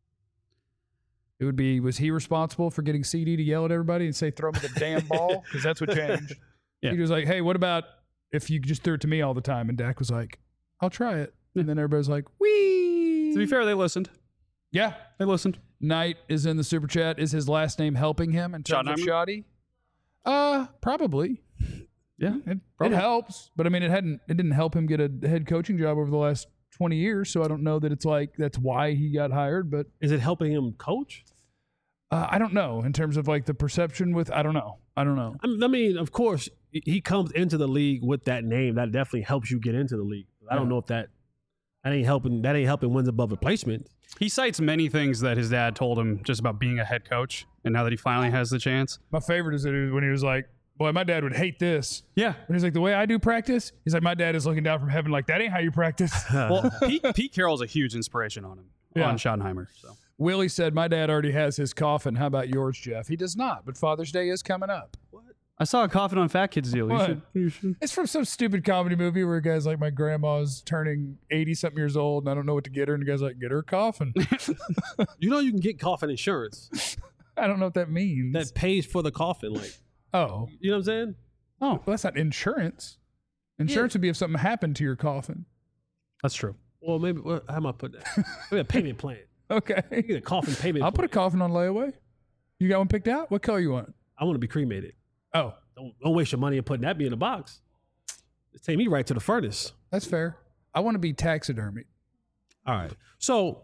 A: It would be, was he responsible for getting C D to yell at everybody and say, throw me the damn ball? Because that's what changed.
C: Yeah.
A: He was like, hey, what about if you just threw it to me all the time? And Dak was like, I'll try it. And then everybody was like, wee.
C: To be fair, they listened.
A: Yeah.
C: They listened.
A: Knight is in the super chat. Is his last name helping him in terms of Shotty? Uh, probably.
C: Yeah,
A: it, it helps, but I mean, it hadn't. It didn't help him get a head coaching job over the last twenty years. So I don't know that it's like that's why he got hired. But
B: is it helping him coach?
A: Uh, I don't know in terms of like the perception with. I don't know. I don't know.
B: I mean, of course, he comes into the league with that name. That definitely helps you get into the league. I don't yeah. know if that that ain't helping. That ain't helping wins above replacement.
C: He cites many things that his dad told him just about being a head coach, and now that he finally has the chance.
A: My favorite is that he was, when he was like, boy, my dad would hate this.
C: Yeah.
A: When he's like, the way I do practice, he's like, my dad is looking down from heaven like, that ain't how you practice.
C: Well, Pete, Pete Carroll's a huge inspiration on him, yeah. on Schottenheimer. So.
A: Willie said, my dad already has his coffin. How about yours, Jeff? He does not, but Father's Day is coming up. What?
C: I saw a coffin on Fat Kids deal. You should, you should.
A: It's from some stupid comedy movie where a guy's like, my grandma's turning eighty-something years old, and I don't know what to get her. And the guy's like, get her a coffin.
B: You know you can get coffin insurance.
A: I don't know what that means.
B: That pays for the coffin. Like,
A: oh.
B: You know what I'm saying?
A: Oh, well, that's not insurance. Insurance would be if something happened to your coffin.
C: That's true.
B: Well, maybe well, how am I put that? Maybe a payment plan.
A: Okay.
B: You get a coffin payment.
A: I'll
B: plan.
A: put a coffin on layaway. You got one picked out? What color you want?
B: I want to be cremated.
A: Oh,
B: Don't, don't waste your money and putting that be in a box. Just take me right to the furnace.
A: that's fair. I want to be taxidermied.
B: All right. So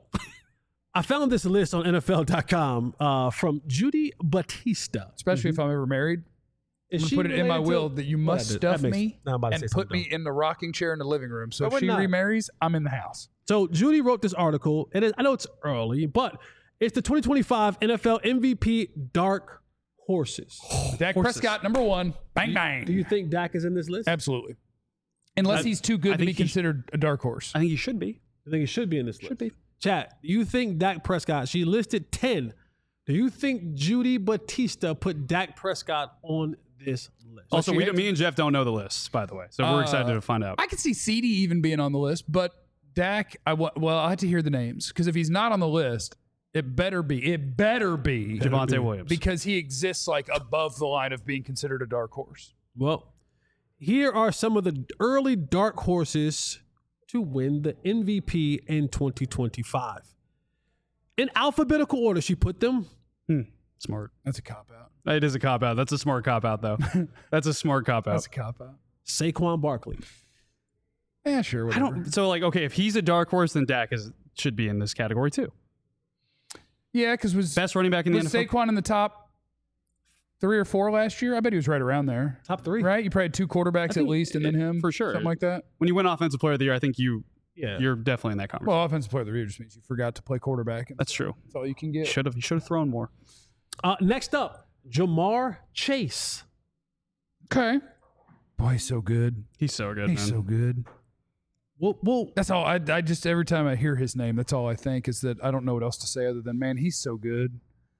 B: I found this list on N F L dot com uh, from Judy Batista.
A: Especially if I'm ever married.
B: Is
A: I'm
B: she
A: going to put it in my
B: related
A: will
B: to-
A: that you
B: Well,
A: must
B: that-
A: stuff
B: that makes-
A: me
B: now I'm about to
A: and
B: say
A: put
B: something
A: me in the rocking chair in the living room. So
B: But
A: if
B: we're
A: she
B: not.
A: remarries, I'm in the house.
B: So Judy wrote this article, and it, I know it's early, but it's the twenty twenty-five N F L M V P Dark Horses.
A: Dak Prescott, number one. Bang, bang.
B: Do you think Dak is in this list?
A: Absolutely. Unless
C: I-
A: he's too
C: I
A: good to
C: think
A: be
C: he sh-
A: considered a dark horse.
C: I think he should be.
B: I think it should be in this list.
C: Should be.
B: Chat, do you think Dak Prescott, she listed ten. Do you think Judy Batista put Dak Prescott on this list?
C: Also,
A: she
C: we,
A: hates
C: me and Jeff don't know the lists, by the way. So we're
A: Uh,
C: excited to find out.
A: I could see C D even being on the list, but Dak, I wa- well, I had to hear the names because if he's not on the list, it better be, it better be
C: Javonte Williams.
A: because he exists like above the line of being considered a dark horse.
B: Well, here are some of the early dark horses to win the M V P in twenty twenty-five. In alphabetical order, she put them.
C: Hmm. Smart.
A: That's a cop out.
C: It is a cop out. That's a smart cop out, though. That's a smart cop out.
A: That's a cop out.
B: Saquon Barkley.
A: Yeah, sure.
C: I
A: Whatever.
C: don't. So, like, okay, if he's a dark horse, then Dak is should be in this category too.
A: Yeah, because was
C: Best running back in the
A: was
C: N F L.
A: Saquon in the top three or four last year? I bet he was right around there.
B: Top three.
A: Right? You probably had two quarterbacks at
C: think
A: least, and then
C: it-
A: him
C: for sure.
A: something like that.
C: When you win Offensive Player of the Year, I think you
B: Yeah.
C: you're definitely in that conversation.
A: Well, offensive player of the year just means you forgot to play quarterback. And
C: That's true.
A: That's all you can get.
C: Should have. You should have thrown more.
B: Uh, next up, Jamar Chase.
A: Okay. Boy, he's so good.
C: He's so good,
A: He's
C: man.
A: so good.
B: Well, well,
A: That's all. I, I just every time I hear his name, that's all I think is that I don't know what else to say other than, man, he's so good.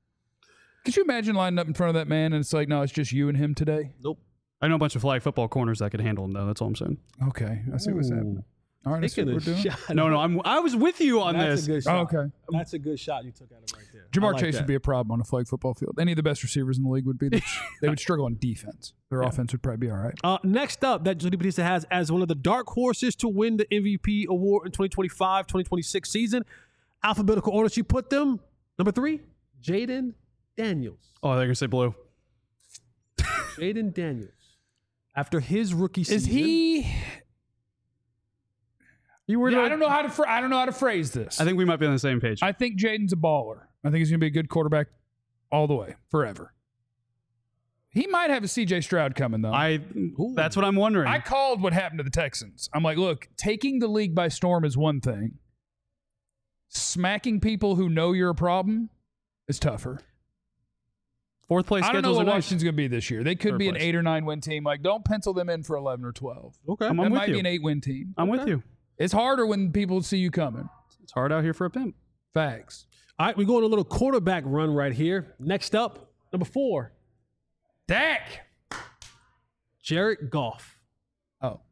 A: Could you imagine lining up in front of that man and it's like, no, it's just you and him today?
B: nope.
C: I know a bunch of flag football corners that could handle him, though. That's all I'm saying.
A: Okay, I see what's happening. All right, that's what
B: Taking
A: we're
B: a
A: doing.
B: shot.
C: No, no, I'm. I was with you on
B: That's
C: this.
B: a good
A: Oh,
B: shot.
A: okay.
B: That's a good shot you took out of right there.
A: Jamar
B: I like
A: Chase
B: that.
A: would be a problem on a flag football field. Any of the best receivers in the league would be. They, they would struggle on defense. Their offense would probably be all right.
B: Uh, next up, that Judy Batista has as one of the dark horses to win the M V P award in twenty twenty-five twenty twenty-six season. Alphabetical order, she put them. Number three, Jaden Daniels.
C: Oh, they're gonna say blue.
B: Jaden Daniels. After his rookie season.
A: Is he?
C: You were.
A: Yeah,
C: not-
A: I don't know how to. Phr- I don't know how to phrase this.
C: I think we might be on the same page.
A: I think Jaden's a baller. I think he's going to be a good quarterback all the way, forever. He might have a C J Stroud coming, though.
C: I. That's what I'm wondering.
A: I called what happened to the Texans. I'm like, look, taking the league by storm is one thing. Smacking people who know you're a problem is tougher.
C: Fourth place
A: I don't know
C: schedules
A: what
C: are nice.
A: Washington's going to be this year. They could
C: Third
A: be an
C: place.
A: eight or nine win team. Like, don't pencil them in for eleven or twelve.
B: Okay.
C: I'm
A: That
C: with
A: might
C: you.
A: be an eight win team.
C: I'm with you.
A: It's harder when people see you coming.
C: It's hard out here for a pimp.
A: Facts.
B: All right, we're going a little quarterback run right here. Next up, number four,
A: Dak.
B: Jared Goff.
A: Oh.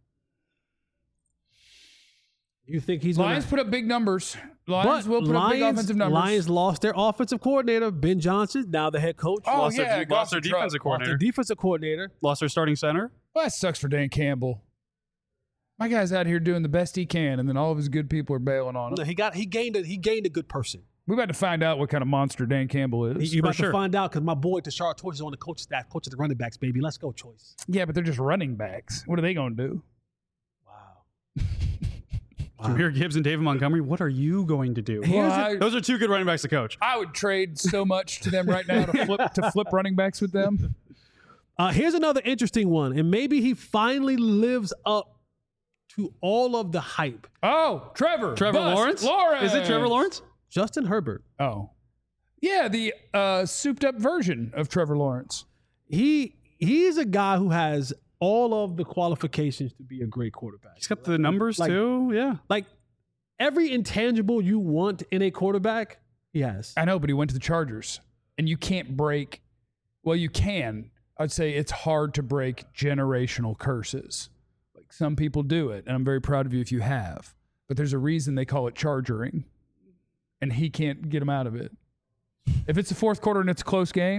B: You think he's
A: Lions
B: going
A: put up big numbers.
B: to...
A: Lions will put up big offensive numbers.
B: Lions lost their offensive coordinator, Ben Johnson, now the head coach.
A: Oh,
C: lost
A: yeah.
C: their,
A: Goff's
C: lost their
A: a truck.
C: defensive
B: Lost their
C: coordinator.
B: defensive coordinator.
C: Lost their starting center.
A: Well, that sucks for Dan Campbell. My guy's out here doing the best he can, and then all of his good people are bailing on
B: No,
A: him.
B: he got he gained a he gained a good person.
A: We're about to find out what kind of monster Dan Campbell is.
B: You're about
C: sure.
B: to find out because my boy Tashard Choice is on the coach staff, coach of the running backs, baby. Let's go, Choice.
A: Yeah, but they're just running backs. What are they going to do?
B: Wow.
C: Jameer Gibbs and David Montgomery. What are you going to do?
A: Well, I,
C: Those are two good running backs to coach.
A: I would trade so much to them right now to flip to flip running backs with them.
B: Uh, here's another interesting one, and maybe he finally lives up to all of the hype.
A: Oh, Trevor.
C: Trevor
A: Bust
C: Lawrence?
A: Lawrence.
C: Is it Trevor Lawrence?
B: Justin Herbert.
A: Oh. Yeah, the uh, souped up version of Trevor Lawrence.
B: He he's a guy who has all of the qualifications to be a great quarterback.
C: He's got the numbers
B: Like-
C: too. Yeah.
B: Like every intangible you want in a quarterback, he has.
A: I know, but he went to the Chargers, and you can't break. Well, you can. I'd say it's hard to break generational curses. Like some people do it, and I'm very proud of you if you have. But there's a reason they call it chargering, and he can't get him out of it. If it's the fourth quarter and it's a close game,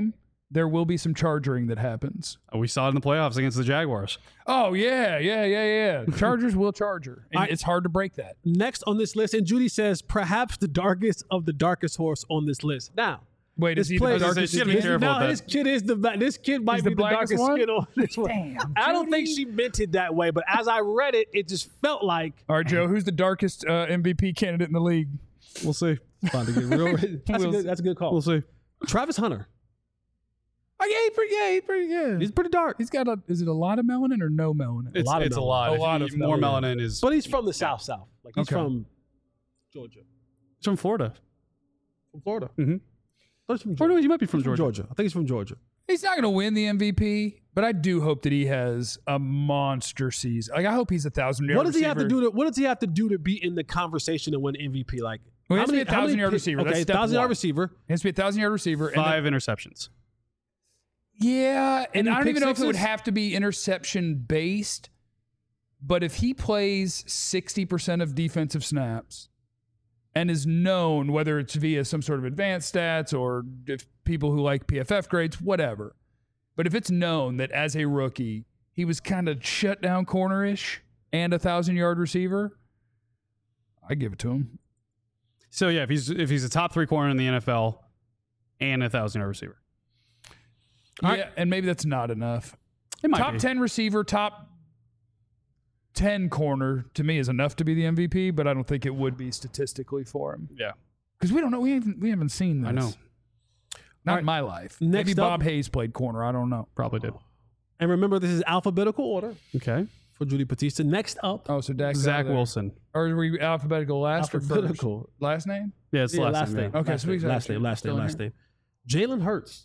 A: there will be some charging that happens.
C: We saw it in the playoffs against the Jaguars.
A: Oh, yeah, yeah, yeah, yeah. Chargers will charger. And
B: right.
A: It's hard to break that.
B: Next on this list, and Judy says perhaps the darkest of the darkest horse on this list. Now,
A: Wait, is
B: this
A: he
B: player,
A: the darkest?
C: You gotta be
B: this,
C: careful
B: no,
C: with that.
B: this kid is the this kid might
A: He's
B: be
A: the
B: the,
A: blackest
B: darkest
A: one?
B: kid on this one.
A: Damn,
B: I don't think
A: Judy.
B: she meant it that way, but as I read it, it just felt like
A: All right, Joe, who's the darkest uh, M V P candidate in the league?
C: We'll see.
B: about to get real. That's, a good, that's a good call.
C: We'll see.
B: Travis Hunter.
A: Oh, yeah, he's pretty, yeah, he's pretty good.
B: He's pretty dark,
A: He's got a, is it a lot of melanin or no melanin?
C: It's,
B: lot of
C: it's a
B: melanin.
C: lot.
A: A
C: If
A: lot
C: you-
A: of
C: more
A: melanin.
C: melanin is.
B: but he's from the South South. Like he's
A: Okay.
B: from Georgia,
C: He's from Florida.
B: from Florida.
C: Mm-hmm.
B: Oh, he's from
C: Or
B: Georgia.
C: no, you might be from
B: He's from
C: Georgia.
B: Georgia. I think he's from Georgia.
A: He's not going to win the M V P, but I do hope that he has a monster season. Like I hope he's a thousand yard
B: What does he have to
A: receiver.
B: do to? What does he have to do to be in the conversation and win M V P? Like
A: Well, he
B: how
A: has to
B: many-
A: be a
B: how many
A: thousand-yard
B: pi-
A: receiver.
B: Okay,
A: That's step
B: thousand yard
A: one.
B: receiver.
A: He has to be a thousand yard receiver. and
C: Five interceptions.
A: then- yeah, and
B: Any
A: I don't
B: pick
A: even know if it would
B: sixes?
A: have to be interception based, but if he plays sixty percent of defensive snaps and is known, whether it's via some sort of advanced stats or if people who like P F F grades, whatever. But if it's known that as a rookie, he was kind of shut down corner-ish and a thousand-yard receiver, I give it to him.
C: So yeah, if he's if he's a top three corner in the N F L and a thousand yard receiver,
A: Yeah,
B: All right.
A: and maybe that's not enough.
C: it might
A: Top
C: be.
A: ten receiver, top ten corner to me is enough to be the M V P, but I don't think it would be statistically for him
C: Yeah,
A: because we don't know. We haven't we haven't seen this.
C: I know.
A: Not
B: All
A: in my life.
B: Next
A: Maybe
B: up-
A: Bob Hayes played corner. I don't know.
C: Probably did.
B: And remember, this is alphabetical order
C: Okay.
B: for Judy Batista. Next up,
A: Oh, so Dak's out
C: Zach
A: of there.
C: Wilson.
A: Or are we alphabetical last or first?
B: alphabetical.
A: Last name?
C: Yeah, it's the
B: Yeah,
C: last,
B: last
C: name.
B: name.
C: yeah.
A: Okay,
B: last
A: so
B: name,
A: he's
B: last
A: actually
B: name, last
A: still
B: name,
A: in
B: last
A: here.
B: name. Jalen Hurts,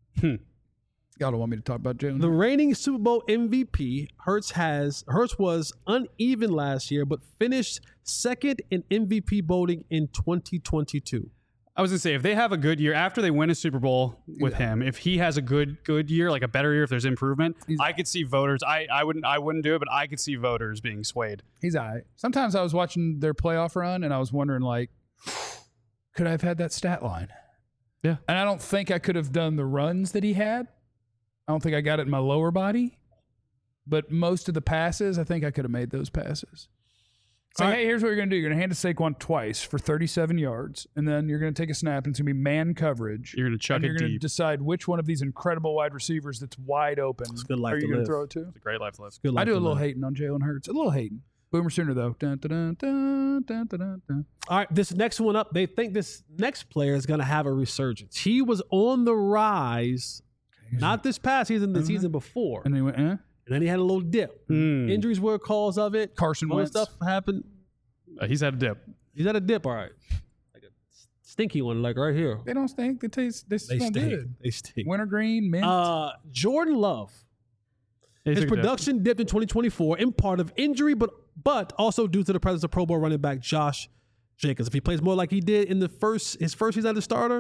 A: Y'all don't want me to talk about Jalen.
B: the reigning Super Bowl M V P. Hurts has Hurts was uneven last year, but finished second in M V P voting in twenty twenty-two.
C: I was gonna say if they have a good year after they win a Super Bowl with him, if he has a good good year, like a better year, if there's improvement, I could see voters. I, I wouldn't I wouldn't do it, but I could see voters being swayed.
A: He's all right. Sometimes I was watching their playoff run and I was wondering, like, could I have had that stat line?
C: Yeah.
A: And I don't think I could have done the runs that he had. I don't think I got it in my lower body. But most of the passes, I think I could have made those passes. It's like,
B: All right.
A: hey, here's what you're going to do. You're going to hand to Saquon twice for thirty-seven yards, and then you're going to take a snap, and it's going to be man coverage.
C: You're gonna chuck
A: and
C: it
A: you're going to
C: deep.
A: decide which one of these incredible wide receivers that's wide open
B: a good life
A: are you
B: to
A: going
B: live.
A: to throw it to.
C: It's a great life life.
B: Good
A: I
B: luck
A: do a
B: to
A: little
B: them.
A: hating on Jalen Hurts. A little hating. Boomer Sooner, though. Dun, dun, dun, dun, dun, dun, dun.
B: All right, this next one up, they think this next player is going to have a resurgence. He was on the rise, not this past season, the season before.
A: And he went, eh?
B: And then he had a little dip.
C: Mm.
B: Injuries were a cause of it.
A: Carson
B: Other
A: Wentz.
B: stuff happened.
C: Uh, he's had a dip.
B: He's at a dip, all right. Like a stinky one, like right here.
A: They don't stink. They taste. They,
B: They
A: smell
B: stink.
A: good.
B: They stink.
A: Wintergreen, mint.
B: Uh, Jordan Love.
C: He
B: His
C: took a dip.
B: production dipped in twenty twenty-four in part of injury, but but also due to the presence of Pro Bowl running back Josh Jacobs. If he plays more like he did in the first his first season as a starter,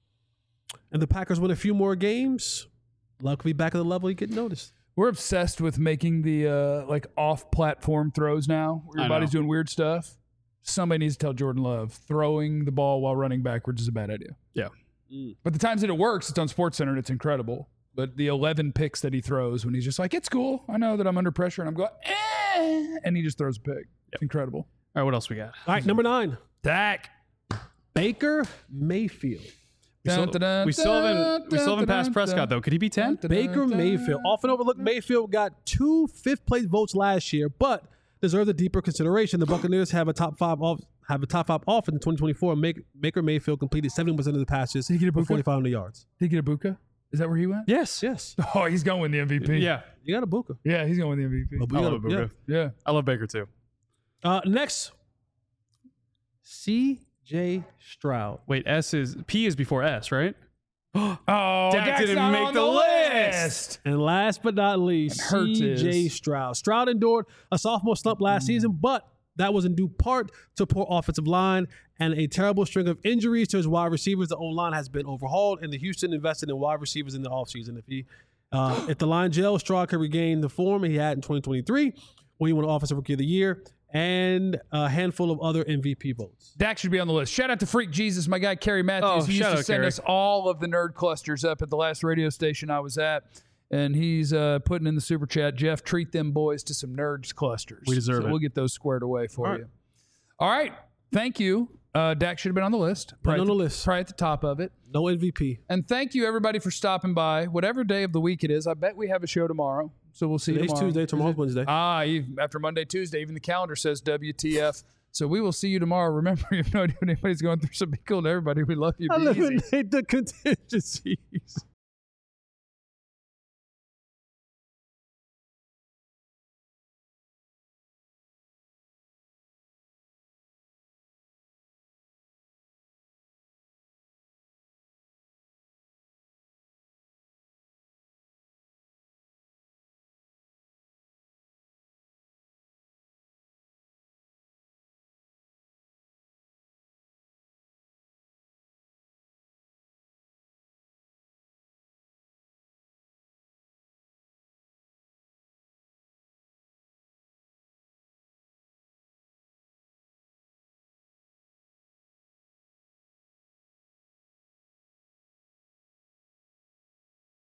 B: and the Packers win a few more games, Love could be back at the level he get noticed.
A: We're obsessed with making the uh, like off-platform throws now. Where
C: I
A: your body's
C: know.
A: doing weird stuff. Somebody needs to tell Jordan Love throwing the ball while running backwards is a bad idea.
C: Yeah.
A: But the times that it works, it's on SportsCenter and it's incredible. But the eleven picks that he throws when he's just like, it's cool. I know that I'm under pressure and I'm going, eh, and he just throws a pick. It's incredible.
C: All right, what else we got?
B: All right, number nine,
A: Dak.
B: Baker Mayfield.
C: We still,
A: Dun, dun, dun,
C: we still haven't
A: dun,
C: we still haven't
A: dun,
C: passed
A: dun,
C: Prescott
A: dun.
C: though. Could he be ten?
B: Baker Mayfield, often overlooked. Mayfield got two fifth place votes last year, but deserves a deeper consideration. The Buccaneers have a top five off, have a top five offense in twenty twenty-four. Make, Baker Mayfield completed seventy percent of the passes
A: he get a
B: for
A: Buka?
B: forty-five hundred yards.
A: Did he get a Buka? Is that where he went?
C: Yes.
B: Yes,
A: Oh, he's going with the M V P.
C: Yeah.
B: you got a Buka.
A: Yeah, he's going with the M V P.
B: A
C: I
B: Buka,
C: love
B: yeah.
C: Baker.
A: Yeah.
C: I love Baker too.
B: Uh, next, C J Stroud.
C: Wait, S is P is before S, right?
A: Oh,
C: Dak
A: Dak's
C: didn't
A: not
C: make
A: on
C: the list.
B: And last but not least,
A: And Hurts
B: C J
A: is-
B: Stroud. Stroud endured a sophomore slump last season, but that was in due part to poor offensive line and a terrible string of injuries to his wide receivers. The O-line has been overhauled, and the Houston invested in wide receivers in the offseason. If he, uh, if the line gels, Stroud could regain the form he had in twenty twenty-three when he won Offensive Rookie of the Year and a handful of other M V P votes.
A: Dak should be on the list. Shout out to Freak Jesus, my guy Kerry Matthews.
C: Oh,
A: he used
C: shout
A: to
C: out,
A: send
C: Kerry.
A: us all of the nerd clusters up at the last radio station I was at. And he's uh, putting in the super chat, Jeff, treat them boys to some nerds clusters.
C: We deserve
A: so
C: it.
A: We'll get those squared away for
B: All right.
A: you. All right. Thank you. Uh, Dak should have been on the list.
B: Been on
A: at
B: the list.
A: Probably at the top of it.
B: No M V P.
A: And thank you, everybody, for stopping by. Whatever day of the week it is, I bet we have a show tomorrow. So we'll see you
B: Today's
A: tomorrow.
B: Tuesday, tomorrow's Wednesday.
A: Ah, even after Monday, Tuesday, even the calendar says W T F. So we will see you tomorrow. Remember, you have no idea what anybody's going through, so be cool to everybody. We love you. Be easy.
B: Eliminate the contingencies.